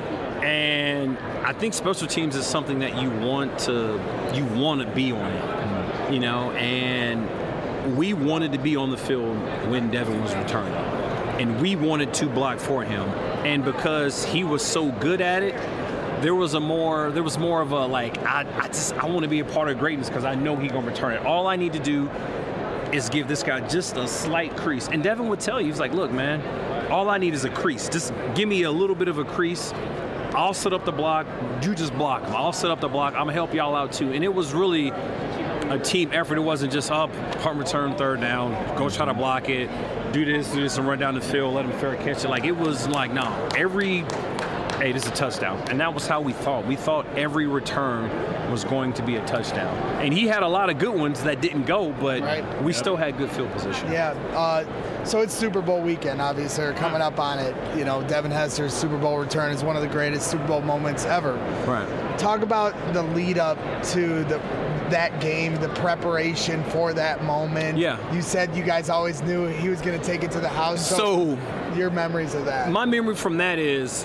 And I think special teams is something that you want to you want to be on it, you know. And we wanted to be on the field when Devin was returning, and we wanted to block for him. And because he was so good at it, there was a more there was more of a like I, I just I want to be a part of greatness because I know he's gonna return it. All I need to do is give this guy just a slight crease. And Devin would tell you, he's like, look, man, all I need is a crease. Just give me a little bit of a crease. I'll set up the block. You just block him. I'll set up the block. I'm going to help y'all out, too. And it was really a team effort. It wasn't just up, punt return, third down, go try to block it, do this, do this, and run down the field, let him fair catch it. Like, it was like, no, every, hey, this is a touchdown. And that was how we thought. We thought every return was going to be a touchdown. And he had a lot of good ones that didn't go, but Right. we still had good field position. Yeah. Uh, so it's Super Bowl weekend, obviously. We're coming up on it. You know, Devin Hester's Super Bowl return is one of the greatest Super Bowl moments ever. Right. Talk about the lead up to the that game, the preparation for that moment. Yeah. You said you guys always knew he was going to take it to the house. So your memories of that. my memory from that is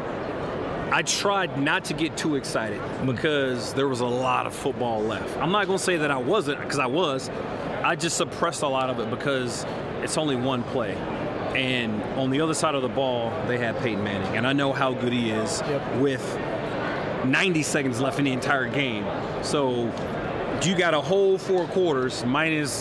I tried not to get too excited because there was a lot of football left. I'm not going to say that I wasn't, because I was. I just suppressed a lot of it because it's only one play. And on the other side of the ball, they had Peyton Manning. And I know how good he is Yep. with ninety seconds left in the entire game. So you got a whole four quarters minus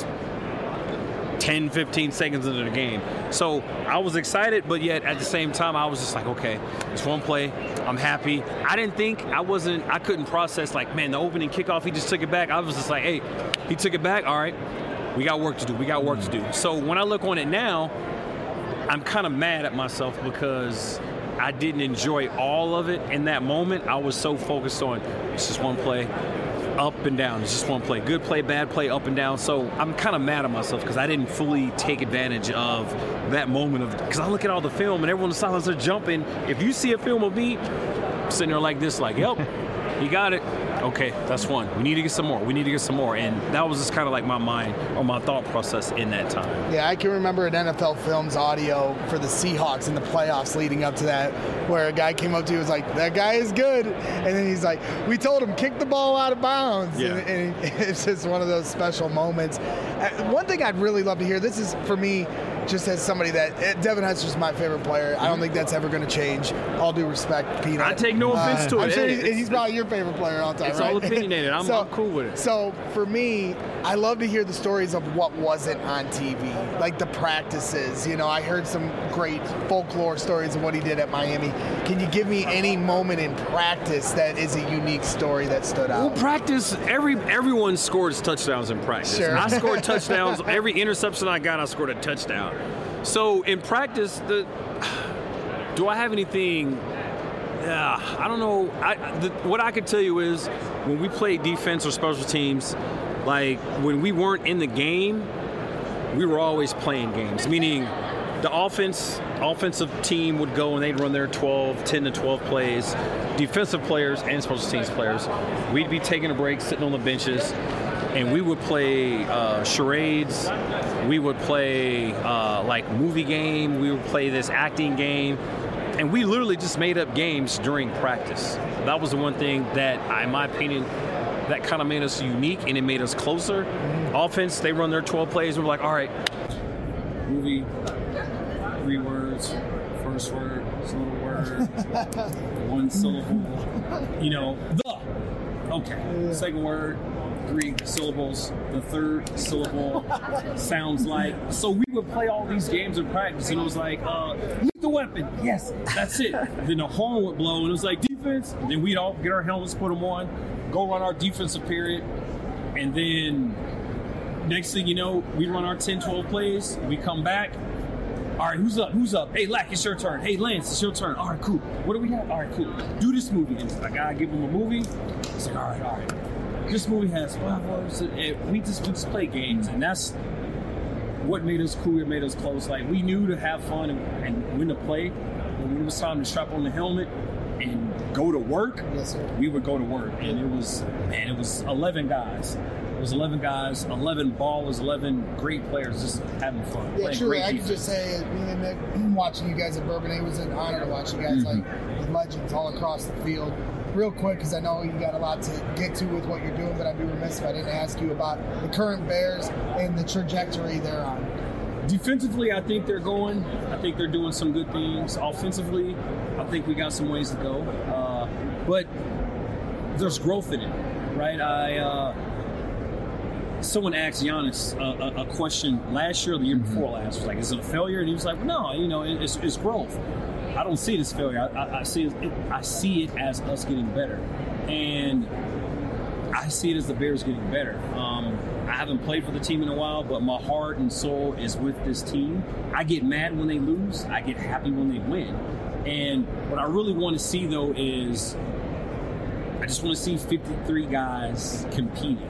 ten, fifteen seconds into the game. So I was excited, but yet at the same time, I was just like, okay, it's one play. I'm happy. I didn't think, I wasn't, I couldn't process like, man, the opening kickoff, he just took it back. I was just like, hey, he took it back. All right, we got work to do. We got work to do. So when I look on it now, I'm kind of mad at myself because I didn't enjoy all of it in that moment. I was so focused on, it's just one play. Up and down. It's just one play. Good play, bad play, up and down. So I'm kind of mad at myself because I didn't fully take advantage of that moment of, because I look at all the film and everyone in the silence are jumping. If you see a film of me sitting there like this, like, yep, you got it. Okay, that's one. We need to get some more. We need to get some more. And that was just kind of like my mind or my thought process in that time. Yeah, I can remember an N F L Films audio for the Seahawks in the playoffs leading up to that, where a guy came up to you and was like, that guy is good. And then he's like, we told him, kick the ball out of bounds. Yeah. And, and it's just one of those special moments. Uh, one thing I'd really love to hear, this is for me, just as somebody that, uh, Devin Hester's my favorite player. I don't think that's ever going to change. All due respect, Peanut. I take no offense to I'm it. sure Hey, he's, it's- he's probably your favorite player all the time, It's right? all opinionated. I'm, I'm cool with it. So for me, I love to hear the stories of what wasn't on T V, like the practices. You know, I heard some great folklore stories of what he did at Miami. Can you give me any moment in practice that is a unique story that stood Well, out? practice, every everyone scores touchdowns in practice. Sure. I scored touchdowns. Every interception I got, I scored a touchdown. So in practice, the do I have anything? Yeah, I don't know. I, the, what I could tell you is when we played defense or special teams, like when we weren't in the game, we were always playing games. Meaning, the offense, offensive team would go and they'd run their twelve, ten to twelve plays. Defensive players and special teams players, we'd be taking a break, sitting on the benches, and we would play uh, charades. We would play uh, like movie game. We would play this acting game. And we literally just made up games during practice. That was the one thing that, in my opinion, that kind of made us unique and it made us closer. Mm-hmm. Offense, they run their twelve plays. We're like, all right, movie, three words, first word, syllable word, one syllable, you know, the. Okay, second word, three syllables. The third syllable sounds like. So we would play all these games in practice, and it was like, uh, lethal weapon. Yes, that's it. Then the horn would blow, and it was like defense. And then we'd all get our helmets, put them on, go run our defensive period, and then next thing you know, we run our ten, twelve plays. We come back. All right, who's up? Who's up? Hey, Lack, it's your turn. Hey, Lance, it's your turn. All right, cool. What do we have? All right, cool. Do this movie. And I gotta give him a movie. It's like, all right, all right. This movie has five words. And we just we just play games, and that's what made us cool. It made us close. Like we knew to have fun and, and when to play. But when it was time to strap on the helmet and go to work, yes, sir. we would go to work, and it was man, it was eleven guys. It was eleven guys, eleven ballers, eleven great players just having fun. Yeah, truly, I defense. could just say, me and Nick, watching you guys at Bourbon, it was an honor to watch you guys mm-hmm. like legends all across the field. Real quick, because I know you got a lot to get to with what you're doing, but I'd be remiss if I didn't ask you about the current Bears and the trajectory they're on. Defensively, I think they're going. I think they're doing some good things. Offensively, I think we got some ways to go. Uh, but there's growth in it, right? I. Uh, Someone asked Giannis a, a, a question last year or the year before last. Was like, is it a failure? And he was like, no, you know, it, it's, it's growth. I don't see it as failure. I, I, I see it, I see it as us getting better, and I see it as the Bears getting better. Um, I haven't played for the team in a while, but my heart and soul is with this team. I get mad when they lose. I get happy when they win. And what I really want to see though is, I just want to see fifty-three guys competing.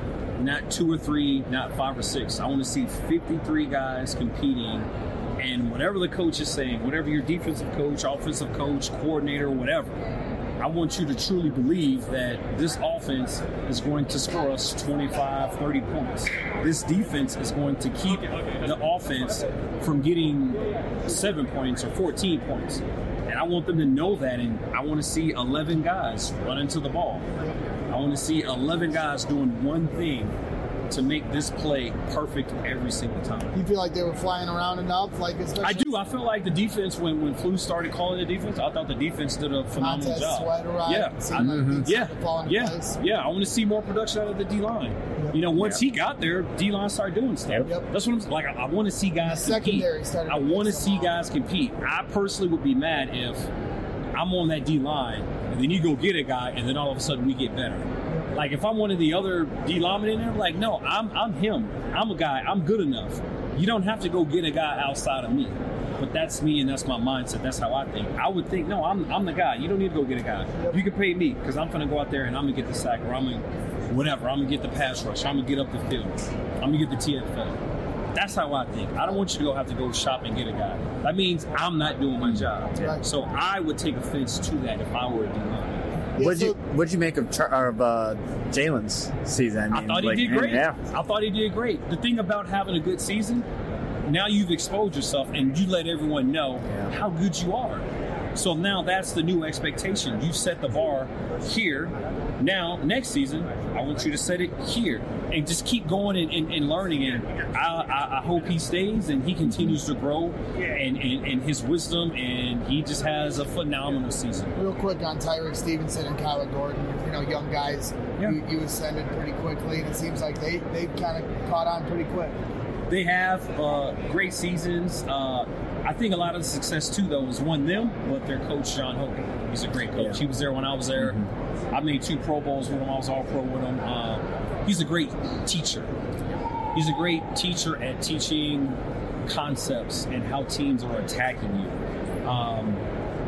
Not two or three, not five or six. I want to see fifty-three guys competing, and whatever the coach is saying, whatever your defensive coach, offensive coach, coordinator, whatever, I want you to truly believe that this offense is going to score us twenty-five, thirty points. This defense is going to keep the offense from getting seven points or fourteen points. And I want them to know that, and I want to see eleven guys run into the ball. I want to see eleven guys doing one thing to make this play perfect every single time. You feel like they were flying around enough? Like especially I do. I feel like the defense, when, when Flus started calling the defense, I thought the defense did a phenomenal Montez job. Sweat arrived, yeah, seemed I, like mm-hmm. things yeah, started falling yeah, into place. yeah. I want to see more production out of the D-line. Yep. You know, once Yeah. he got there, D-line started doing stuff. Yep. That's what I'm like. I, I want to see guys The compete. secondary started I to want to piss see them off. guys compete. I personally would be mad if I'm on that D-line and then you go get a guy and then all of a sudden we get better. Like if I'm one of the other D linemen in there, like no, I'm I'm him. I'm a guy. I'm good enough. You don't have to go get a guy outside of me. But that's me and that's my mindset. That's how I think. I would think, no, I'm I'm the guy. You don't need to go get a guy. You can pay me because I'm gonna go out there and I'm gonna get the sack or I'm gonna whatever. I'm gonna get the pass rush. I'm gonna get up the field. I'm gonna get the T F L. That's how I think. I don't want you to go have to go shop and get a guy. That means I'm not doing my job. Right. So I would take offense to that if I were a D lineman. Yeah, What'd so- you What'd you make of Char- of uh, Jalen's season? I, I mean, thought he like, did great. Yeah. I thought he did great. The thing about having a good season, now you've exposed yourself and you let everyone know Yeah. how good you are. So now that's the new expectation. You've set the bar here. Now, next season, I want you to set it here. And just keep going and, and, and learning. And I, I, I hope he stays and he continues to grow and, and, and his wisdom, and he just has a phenomenal season. Real quick on Tyreek Stevenson and Kyler Gordon, you know, young guys, Yeah. you, you ascended pretty quickly, and it seems like they, they've kind of caught on pretty quick. They have uh, great seasons. Uh, I think a lot of the success, too, though, is one them, but their coach, John Hogan. He's a great coach. Yeah. He was there when I was there. Mm-hmm. I made two Pro Bowls with him. I was all pro with him. Uh, he's a great teacher. He's a great teacher at teaching concepts and how teams are attacking you. Um,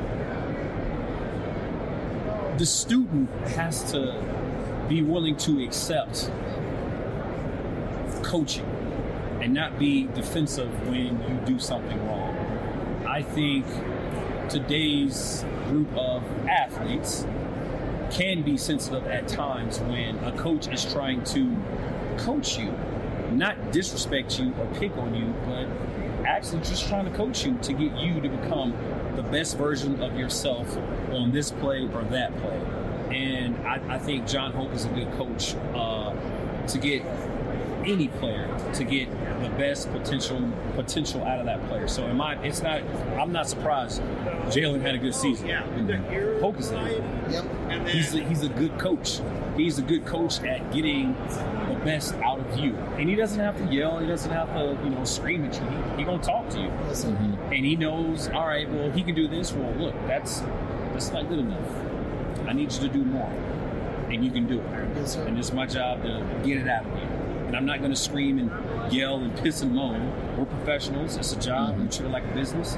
the student has to be willing to accept coaching and not be defensive when you do something wrong. I think today's group of athletes can be sensitive at times when a coach is trying to coach you, not disrespect you or pick on you, but actually just trying to coach you to get you to become the best version of yourself on this play or that play. And I, I think John Hoke is a good coach uh, to get any player to get the best potential potential out of that player. So in my, it's not. I'm not surprised. Jalen had a good season. Mm-hmm. Focus on it. Yep. He's a, he's a good coach. He's a good coach at getting the best out of you, and he doesn't have to yell. He doesn't have to, you know, scream at you. He, he gonna talk to you, mm-hmm. and he knows. All right, well, he can do this. Well, look, that's that's not good enough. I need you to do more, and you can do it. Yes, sir. And it's my job to get it out of you. And I'm not going to scream and yell and piss and moan. We're professionals. It's a job. Mm-hmm. We treat it like a business.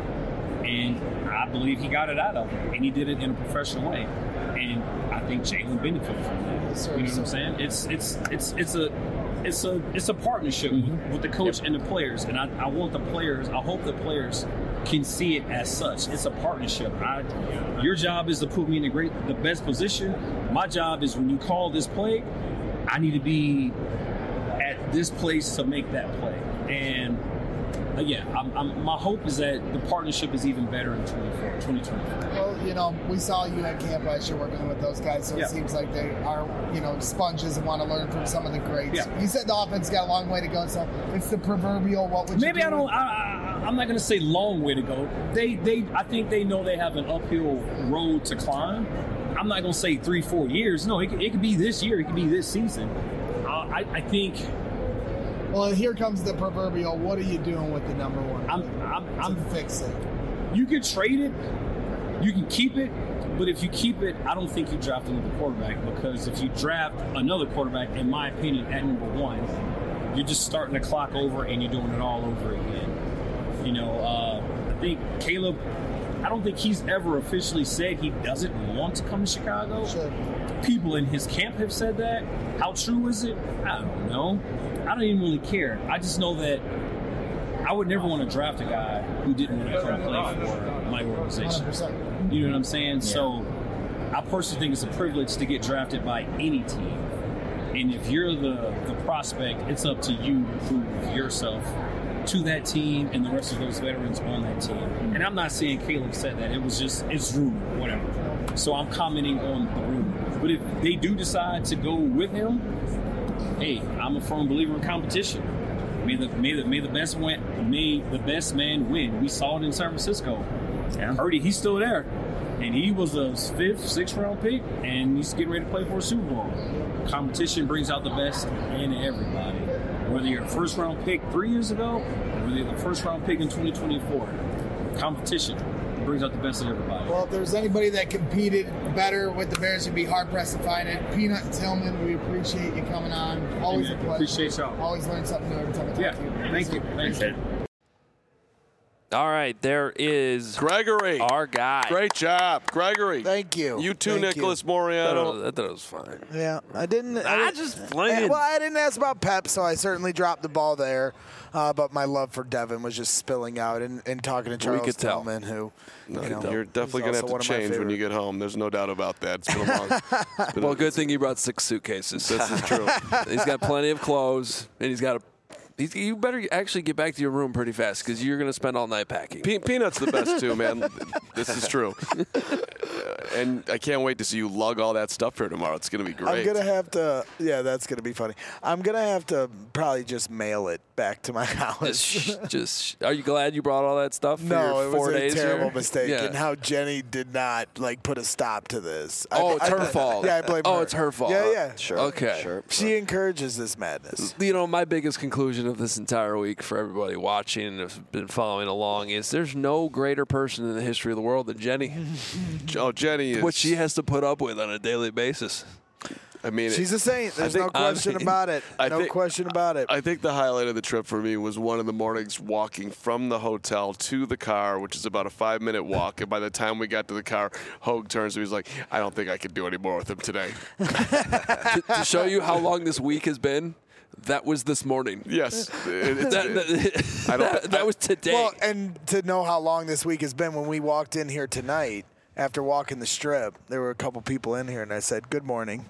And I believe he got it out of him, and he did it in a professional way. And I think Jalen benefited from that. Yes, sir, you know what I'm saying? It's it's it's it's a it's a it's a partnership mm-hmm. with, with the coach yep. and the players. And I, I want the players. I hope the players can see it as such. It's a partnership. I, your job is to put me in the great, the best position. My job is when you call this play, I need to be at this place to make that play. And uh, yeah, I'm, I'm, my hope is that the partnership is even better in twenty twenty-four. Well, you know, we saw you at camp last year working with those guys, so yeah. it seems like they are, you know, sponges and want to learn from some of the greats. Yeah. You said the offense got a long way to go, so it's the proverbial. What would maybe you do? I don't. I, I, I'm not going to say long way to go. They, they, I think they know they have an uphill road to climb. I'm not going to say three, four years. No, it, it could be this year. It could be this season. Uh, I, I think. Well, here comes the proverbial. What are you doing with the number one? I'm, I'm, I'm to fix it. You can trade it. You can keep it. But if you keep it, I don't think you draft another quarterback, because if you draft another quarterback, in my opinion, at number one, you're just starting the clock over and you're doing it all over again. You know, uh, I think Caleb, I don't think he's ever officially said he doesn't want to come to Chicago. Sure. People in his camp have said that. How true is it? I don't know. I don't even really care. I just know that I would never want to draft a guy who didn't want to come play for my organization. one hundred percent. You know what I'm saying? Yeah. So I personally think it's a privilege to get drafted by any team. And if you're the, the prospect, it's up to you to prove yourself to that team and the rest of those veterans on that team. And I'm not saying Caleb said that. It was just, it's rumor, whatever. So I'm commenting on the rumor. But if they do decide to go with him, hey, I'm a firm believer in competition. May the may the may the best win, may the best man win. We saw it in San Francisco. Yeah. Purdy, he's still there, and he was a fifth, sixth round pick, and he's getting ready to play for a Super Bowl. Competition brings out the best in everybody. Whether you're a first round pick three years ago, or whether you're the first round pick in twenty twenty-four, competition brings out the best in everybody. Well, if there's anybody that competed better with the Bears, you'd be hard pressed to find it. Peanut and Tillman, we appreciate you coming on. Always Amen. a pleasure. Appreciate y'all. Always learn something new every time I talk yeah. to you. Thank you. Thank you. All right, there is Gregory, our guy. Great job, Gregory. Thank you. You too, Thank Nicholas you. Moriano. I thought it was fine. Yeah, I didn't. I, I didn't, just playing. I, well, I didn't ask about Pep, so I certainly dropped the ball there. Uh, but my love for Devin was just spilling out and, and talking to Charles Tillman, who no, you know, you're definitely going to have to change when you get home. There's no doubt about that. It's been a long. It's been well, a, good thing you brought six suitcases. This is true. He's got plenty of clothes, and he's got a. He's, you better actually get back to your room pretty fast, because you're going to spend all night packing. Pe- Peanut's the best too, man. This is true. And I can't wait to see you lug all that stuff here tomorrow. It's going to be great. I'm going to have to, yeah, that's going to be funny. I'm going to have to probably just mail it back to my house. Just, just, are you glad you brought all that stuff for no, your four it was days a terrible here? mistake, Yeah. and how Jenny did not, like, put a stop to this. Oh, I, it's I, her I, fault. Yeah, I blame oh, her. it's her fault. Yeah, yeah. Sure. Okay. Sure. She encourages this madness. You know, my biggest conclusion of this entire week for everybody watching and has been following along is there's no greater person in the history of the world than Jenny. Oh, Jenny is. What she has to put up with on a daily basis. I mean, She's a saint. There's think- no question I mean, about it. I No think- question about it. I think the highlight of the trip for me was one of the mornings walking from the hotel to the car, which is about a five-minute walk. And by the time we got to the car, Hogue turns to me, he's like, I don't think I could do any more with him today. to, to show you how long this week has been, that was this morning. Yes. It- it's- That, that, I don't- that, that was today. Well, and to know how long this week has been, when we walked in here tonight after walking the strip, there were a couple people in here, and I said, "Good morning."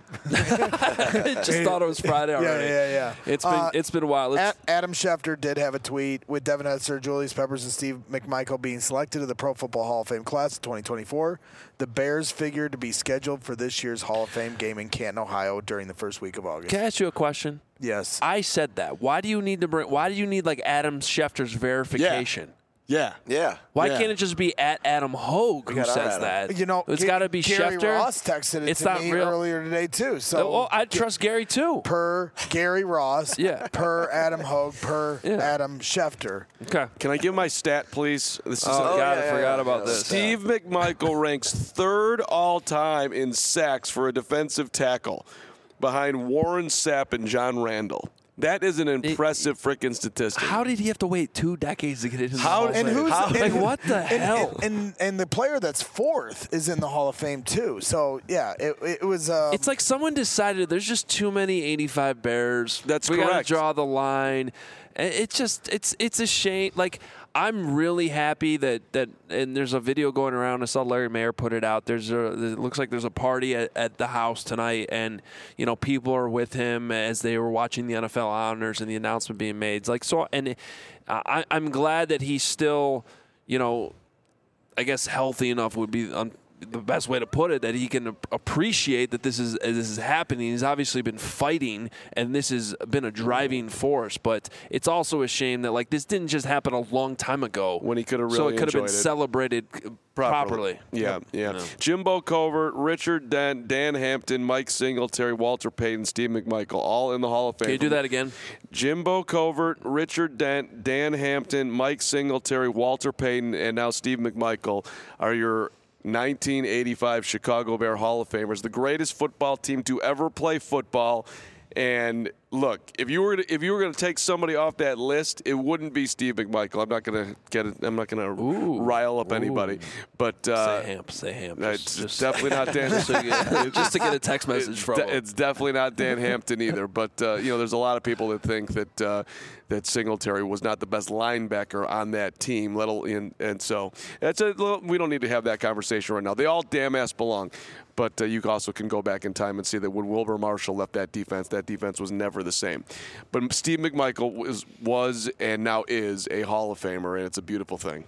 Just thought it was Friday already. Yeah, yeah, yeah. It's been Uh, it's been a while. Let's, A- Adam Schefter did have a tweet with Devin Hester, Julius Peppers, and Steve McMichael being selected to the Pro Football Hall of Fame class of twenty twenty-four. The Bears figured to be scheduled for this year's Hall of Fame game in Canton, Ohio, during the first week of August. can I ask you a question? Yes. I said that. Why do you need to bring? Why do you need like Adam Schefter's verification? Yeah. Yeah. Why Yeah. can't it just be at Adam Hogue who got our says Adam. that? You know, it's Ga- got to be Gary Schefter. Ross texted it It's to not me real. earlier today too. So, Oh, I trust Gary too. per Gary Ross, Yeah. per Adam Hogue, per Yeah. Adam Schefter. Okay. Can I give my stat, please? This is Oh, Oh, God, yeah, I yeah, forgot yeah, about yeah. this. Steve McMichael ranks third all time in sacks for a defensive tackle, behind Warren Sapp and John Randall. That is an impressive freaking statistic. How did he have to wait two decades to get into the How- Hall of and Fame? who's- How- and- like what the And, hell? and, and and the player that's fourth is in the Hall of Fame too. So yeah, it, it was. Um, It's like someone decided there's just too many eighty-five Bears. That's we gotta correct. draw the line. And It's just it's it's a shame. Like I'm really happy that that and there's a video going around. I saw Larry Mayer put it out. There's a it looks like there's a party at, at the house tonight, and you know people are with him as they were watching the N F L honors and the announcement being made. It's like so, and I, I'm glad that he's still, you know, I guess healthy enough would be um, the best way to put it, that he can appreciate that this is this is happening. He's obviously been fighting, and this has been a driving force. But it's also a shame that like this didn't just happen a long time ago When he could have so really it could have been enjoyed it. celebrated properly. Yeah, yeah. Jimbo Covert, Richard Dent, Dan Hampton, Mike Singletary, Walter Payton, Steve McMichael, all in the Hall of Fame. Can you do that again? Jimbo Covert, Richard Dent, Dan Hampton, Mike Singletary, Walter Payton, and now Steve McMichael are your nineteen eighty-five Chicago Bear Hall of Famers, the greatest football team to ever play football. And look, if you were to, if you were going to take somebody off that list, it wouldn't be Steve McMichael. I'm not going to get it. I'm not going to rile up anybody. But uh, say Hamp, say Hamp. uh, Just- it's just- definitely not Dan. just, to get, just to get a text message It's, from de- him. it's definitely not Dan Hampton either. But uh, you know, there's a lot of people that think that uh, that Singletary was not the best linebacker on that team. Little in, and so that's a little, we don't need to have that conversation right now. They all damn ass belong. But uh, you also can go back in time and see that when Wilbur Marshall left that defense, that defense was never the same. But Steve McMichael was, was and now is a Hall of Famer, and it's a beautiful thing.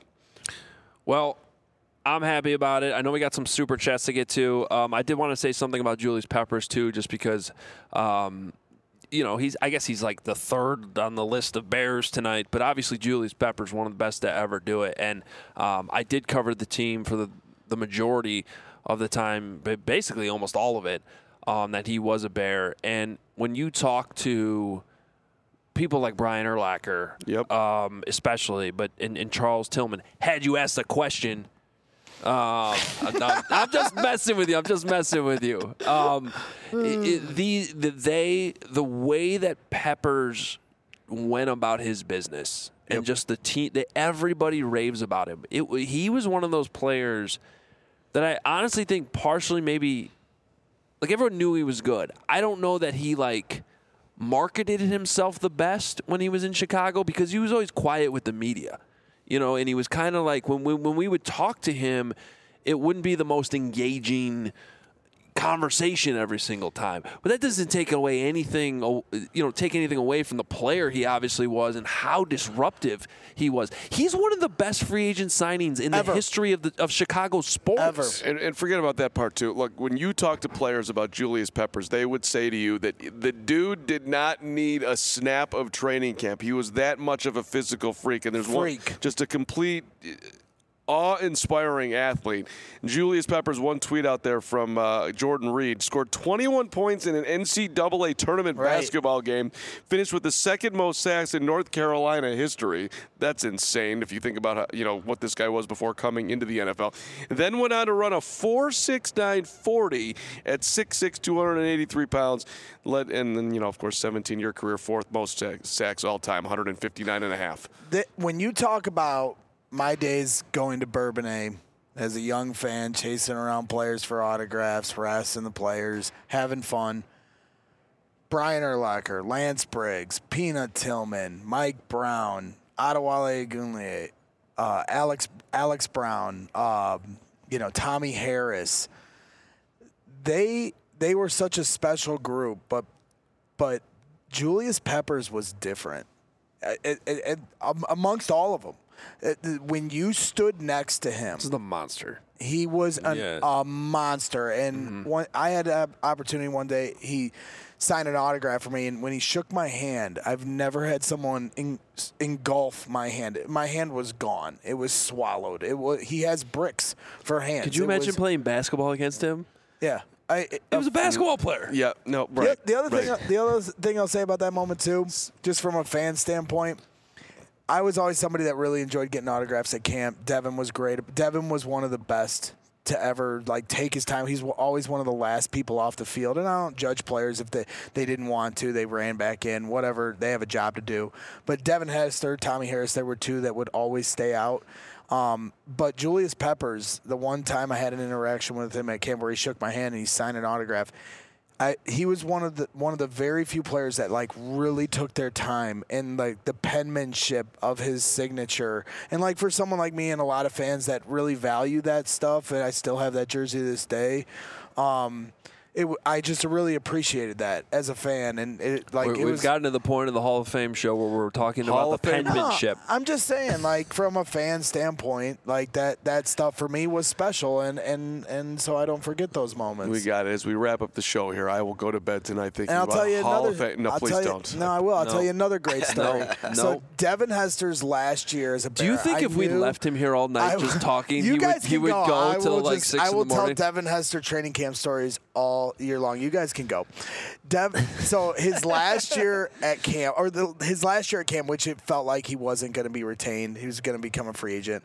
Well, I'm happy about it. I know we got some super chats to get to. Um, I did want to say something about Julius Peppers too, just because, um, you know, he's. I guess he's like the third on the list of Bears tonight. But obviously, Julius Peppers, one of the best to ever do it. And um, I did cover the team for the the majority of the time, but basically almost all of it, um, that he was a Bear. And when you talk to people like Brian Urlacher, Yep. um, especially, but and, and Charles Tillman, had you asked a question, um, I'm, not- I'm just messing with you. I'm just messing with you. Um, it, it, the, the they the way that Peppers went about his business and just the team that everybody raves about him. It he was one of those players that I honestly think partially maybe like everyone knew he was good. I don't know that he like marketed himself the best when he was in Chicago because he was always quiet with the media, you know, and he was kind of like when we, when we would talk to him, it wouldn't be the most engaging conversation every single time. But that doesn't take away anything, you know, take anything away from the player he obviously was and how disruptive he was. He's one of the best free agent signings in Ever. the history of the of Chicago sports. Ever. And, and forget about that part too. Look, when you talk to players about Julius Peppers, they would say to you that the dude did not need a snap of training camp. He was that much of a physical freak, and there's Freak. one just a complete awe-inspiring athlete. Julius Peppers, one tweet out there from uh, Jordan Reed, scored twenty-one points in an N C double A tournament Right. basketball game, finished with the second most sacks in North Carolina history. That's insane if you think about how, you know what this guy was before coming into the N F L. Then went on to run a four six nine forty at six six, two hundred eighty-three pounds. Led, and then, you know, of course, seventeen-year career, fourth most sack- sacks all time, one hundred fifty-nine and a half. That, when you talk about my days going to Bourbonnais as a young fan, chasing around players for autographs, harassing the players, having fun, Brian Urlacher, Lance Briggs, Peanut Tillman, Mike Brown, Adewale Agunle, uh, Alex Alex Brown, uh, you know, Tommy Harris. They they were such a special group, but but Julius Peppers was different. It, it, it, amongst all of them, it, when you stood next to him, This is the monster. he was an, Yeah. a monster. And Mm-hmm. one, I had an opportunity one day. He signed an autograph for me, and when he shook my hand, I've never had someone en- engulf my hand. My hand was gone. It was swallowed. It was. He has bricks for hands. Could you It imagine was- playing basketball against him? Yeah. I, it, He was a basketball player. Yeah, no, the, right. the other right. thing, the other thing I'll say about that moment too, just from a fan standpoint, I was always somebody that really enjoyed getting autographs at camp. Devin was great. Devin was one of the best to ever like take his time. He's always one of the last people off the field, and I don't judge players if they they didn't want to, they ran back in, whatever. They have a job to do. But Devin Hester, Tommy Harris, there were two that would always stay out. Um, but Julius Peppers, the one time I had an interaction with him at camp where he shook my hand and he signed an autograph, I, he was one of the one of the very few players that like really took their time and like the penmanship of his signature. And like for someone like me and a lot of fans that really value that stuff, and I still have that jersey to this day. Um, It, w- I just really appreciated that as a fan, and it like We- it We've was, gotten to the point of the Hall of Fame show where we're talking Hall about the of Fame? penmanship. No, I'm just saying, like from a fan standpoint, like that that stuff for me was special, and and and so I don't forget those moments. We got it. As we wrap up the show here, I will go to bed tonight thinking And I'll about tell you Hall another. of Fame. No, I'll please tell you- don't. No, I will. I'll No. tell you another great story. No, So no. Devin Hester's last year as a Do you Bear, think I if we knew- left him here all night I- just talking, you he guys would he can would go, I till will like just, six I will in the morning? tell Devin Hester training camp stories all year long. You guys can go. Dev, so his last year at camp, or the, his last year at camp, which it felt like he wasn't going to be retained, he was going to become a free agent.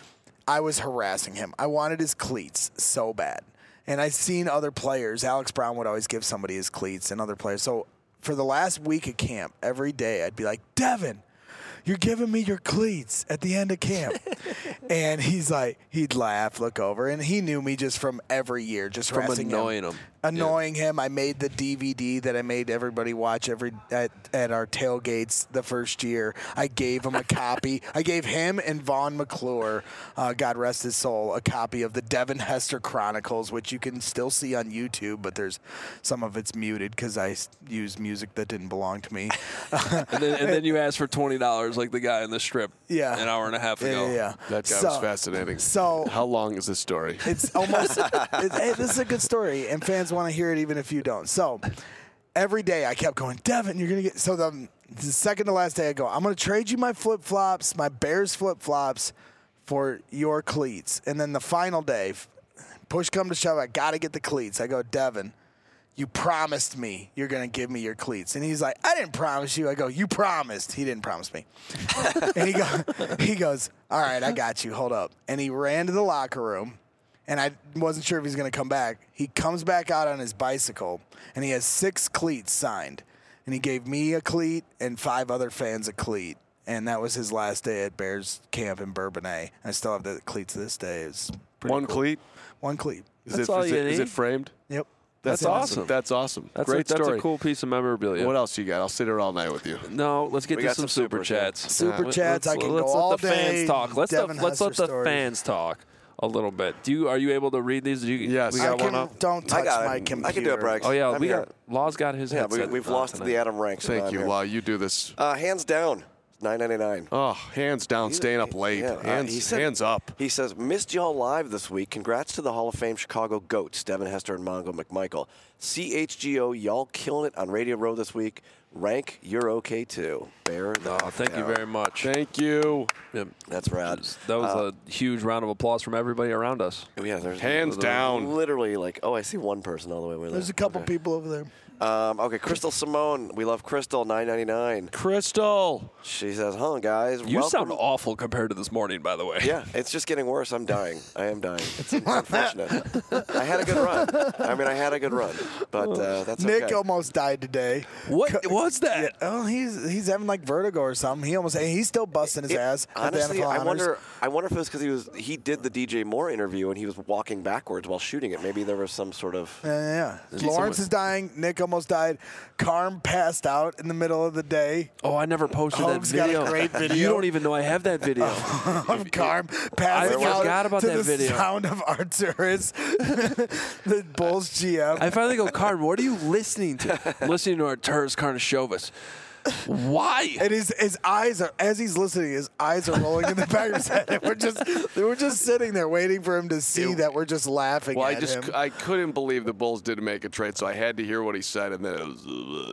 I was harassing him. I wanted his cleats so bad. And I've seen other players. Alex Brown would always give somebody his cleats and other players. So for the last week of camp, every day I'd be like, Devin, you're giving me your cleats at the end of camp. And he's like, he'd laugh, look over. And he knew me just from every year, just From harassing annoying him. Annoying him. I made the D V D that I made everybody watch every at, at our tailgates the first year. I gave him a copy. I gave him and Vaughn McClure, uh, God rest his soul, a copy of the Devin Hester Chronicles, which you can still see on YouTube, but there's some of it's muted because I s- used music that didn't belong to me. and, then, and then you asked for twenty dollars like the guy in the strip Yeah. an hour and a half Yeah, ago. yeah, yeah. That guy So- was fascinating. So How long is this story? it's almost. it, hey, this is a good story, and fans want to hear it even if you don't. So every day I kept going, Devin, you're gonna get. So the, the second to last day I go, I'm gonna trade you my flip flops, my Bears flip flops, for your cleats. And then the final day, push come to shove, I gotta get the cleats. I go, Devin, you promised me you're going to give me your cleats. And he's like, I didn't promise you. I go, you promised. He didn't promise me. And he, go, he goes, all right, I got you. Hold up. And he ran to the locker room, and I wasn't sure if he was going to come back. He comes back out on his bicycle, and he has six cleats signed. And he gave me a cleat and five other fans a cleat. And that was his last day at Bears camp in Bourbonnais. I still have the cleats to this day. It's pretty One cool. cleat? One cleat. Is, That's it, all is, you it, is need. it framed? Yep. That's it. awesome. That's awesome. That's Great a, that's story. a cool piece of memorabilia. What else you got? I'll sit here all night with you. No, let's get We to got some, some super super chats. Super Let- chats, Let's, I can let's go let all the fans day. talk. Let's Devin the, let's let Hester the stories. fans talk a little bit. Do you are you able to read these? Do you, Yes. we I got can, one up. don't I touch got it. my I computer. can do it, Brex. Oh yeah, I'm we here. got Law's got his Yeah, we, headset. we've on lost tonight. the Adam Ranks. Thank on you. here. While you do this. Uh, hands down, nine ninety-nine. Oh, hands down, staying up late. Yeah, uh, hands, he said- hands up. He says, missed y'all live this week. Congrats to the Hall of Fame Chicago GOATs, Devin Hester and Mongo McMichael. C H G O, y'all killing it on Radio Row this week. Rank, you're okay too. Bear the Oh, thank you down. very much. Thank you. Yep. That's rad. That was Uh, a huge round of applause from everybody around us. Yeah, there's Hands down. Literally, like, oh, I see one person all the way over there. There's a couple people over there. Um, okay, Crystal Simone. We love Crystal, nine ninety-nine. Crystal. She says, huh, guys. You welcome. sound awful compared to this morning, by the way. Yeah, it's just getting worse. I'm dying. I am dying. It's, it's unfortunate. I had a good run. I mean, I had a good run, but uh, that's Nick okay. almost died today. What? What? was that? Yeah, oh, he's he's having like vertigo or something. He almost he's still busting his It- ass. at the Honestly, N F L I honors. wonder. I wonder if it was because he was he did the D J Moore interview and he was walking backwards while shooting it. Maybe there was some sort of. Yeah, yeah. Is Lawrence someone- is dying. Nick almost died. Carm passed out in the middle of the day. Oh, I never posted Hoag's that got a video. great video. You don't even know I have that video. Of Carm passing I out forgot about to that the video. sound of Arturis, the Bulls G M. I finally go, Carm, what are you listening to? I'm listening to Arturis Karnisovas. Why? And his his eyes are as he's listening, his eyes are rolling in the back of his head. And we're just we're just sitting there waiting for him to see that we're just laughing Well, I at just him. I couldn't believe the Bulls didn't make a trade, so I had to hear what he said, and then it was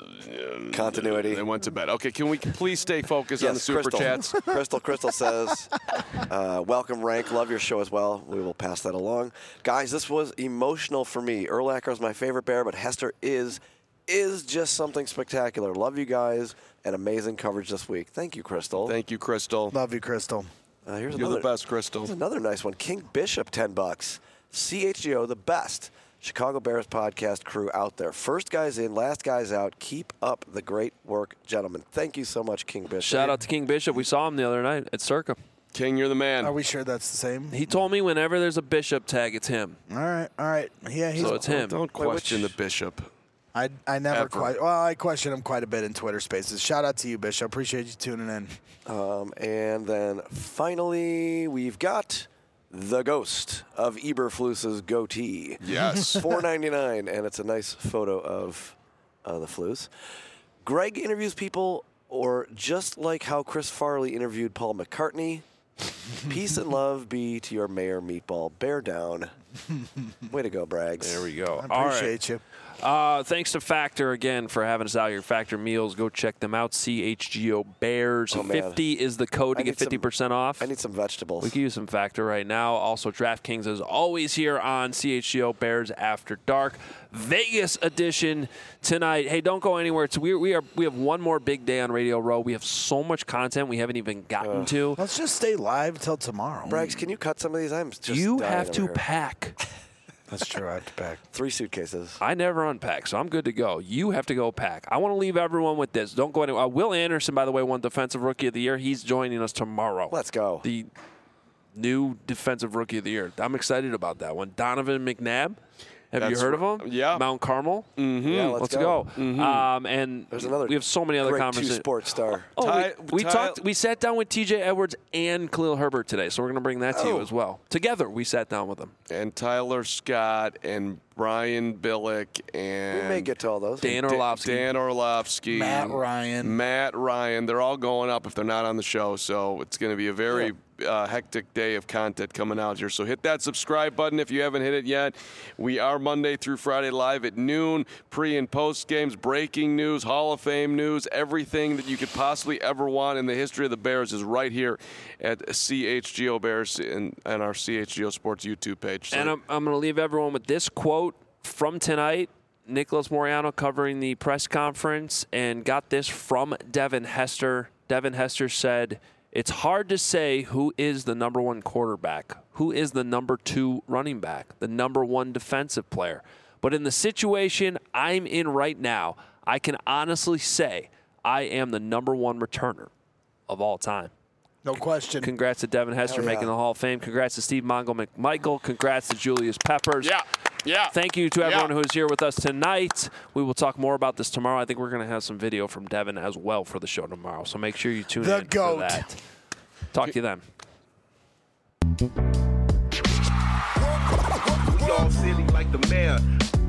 uh, Continuity. They went to bed. Okay, can we please stay focused on the super Crystal. chats? Crystal Crystal says, uh, welcome, Rank. Love your show as well. We will pass that along. Guys, this was emotional for me. Urlacher is my favorite Bear, but Hester is is just something spectacular. Love you guys and amazing coverage this week. Thank you, Crystal. Thank you, Crystal. Love you, Crystal. Uh, here's You're another, the best, Crystal. Here's another nice one. King Bishop, ten bucks. C H G O, the best Chicago Bears podcast crew out there. First guys in, last guys out. Keep up the great work, gentlemen. Thank you so much, King Bishop. Shout out to King Bishop. We saw him the other night at Circa. King, you're the man. Are we sure that's the same? He told me whenever there's a Bishop tag, it's him. All right, all right. Yeah, he's. So it's him. Don't Wait, question which- the bishop. I I never Ever. quite. Well, I question him quite a bit in Twitter Spaces. Shout out to you, Bishop. Appreciate you tuning in. Um, and then finally, we've got the ghost of Eberflus's goatee. Yes. four ninety-nine, and it's a nice photo of uh, the Flus. Greg interviews people, or just like how Chris Farley interviewed Paul McCartney. Peace and love be to your mayor, Meatball. Bear down. Way to go, Braggs. There we go. I All right. appreciate you. Uh, thanks to Factor again for having us out here. Factor Meals, go check them out. C H G O Bears. Oh, man. fifty is the code I to get need some- fifty percent off. I need some vegetables. We can use some Factor right now. Also, DraftKings is always here on C H G O Bears After Dark. Vegas edition tonight. Hey, don't go anywhere. It's, we, we, are, we have one more big day on Radio Row. We have so much content we haven't even gotten to. Let's just stay live till tomorrow. Braggs, can you cut some of these? I'm just You dying have over to here. pack. That's true. I have to pack. Three suitcases. I never unpack, so I'm good to go. You have to go pack. I want to leave everyone with this. Don't go anywhere. Uh, Will Anderson, by the way, won Defensive Rookie of the Year. He's joining us tomorrow. Let's go. The new Defensive Rookie of the Year. I'm excited about that one. Donovan McNabb. Have That's you heard of r- him? yeah. Mount Carmel. Mm-hmm. Yeah, let's, Let's go. Mhm. Um, and There's another we have so many other great conversations. two-sport star. Oh, Ty- we, we Ty- talked. We sat down with T J Edwards and Khalil Herbert today, so we're going to bring that to you Oh. as well. Together, we sat down with them. And Tyler Scott and Brian Billick and We may get to all those. Dan Da- Orlovsky. Dan Orlovsky, Matt Ryan. Matt Ryan. They're all going up if they're not on the show. So it's going to be a very uh, hectic day of content coming out here. So hit that subscribe button if you haven't hit it yet. We are Monday through Friday live at noon, pre and post games, breaking news, Hall of Fame news, everything that you could possibly ever want in the history of the Bears is right here at C H G O Bears and, and our C H G O Sports YouTube page. So And I'm, I'm going to leave everyone with this quote from tonight. Nicholas Moriano covering the press conference and got this from Devin Hester. Devin Hester said, "It's hard to say who is the number one quarterback, who is the number two running back, the number one defensive player. But in the situation I'm in right now, I can honestly say I am the number one returner of all time." No question. Congrats to Devin Hester Hell yeah. making the Hall of Fame. Congrats to Steve Mongo McMichael. Congrats to Julius Peppers. yeah, yeah. Thank you to everyone Yeah. who's here with us tonight. We will talk more about this tomorrow. I think we're going to have some video from Devin as well for the show tomorrow. So make sure you tune The in GOAT. for that. Talk to you then. We all silly like the mayor.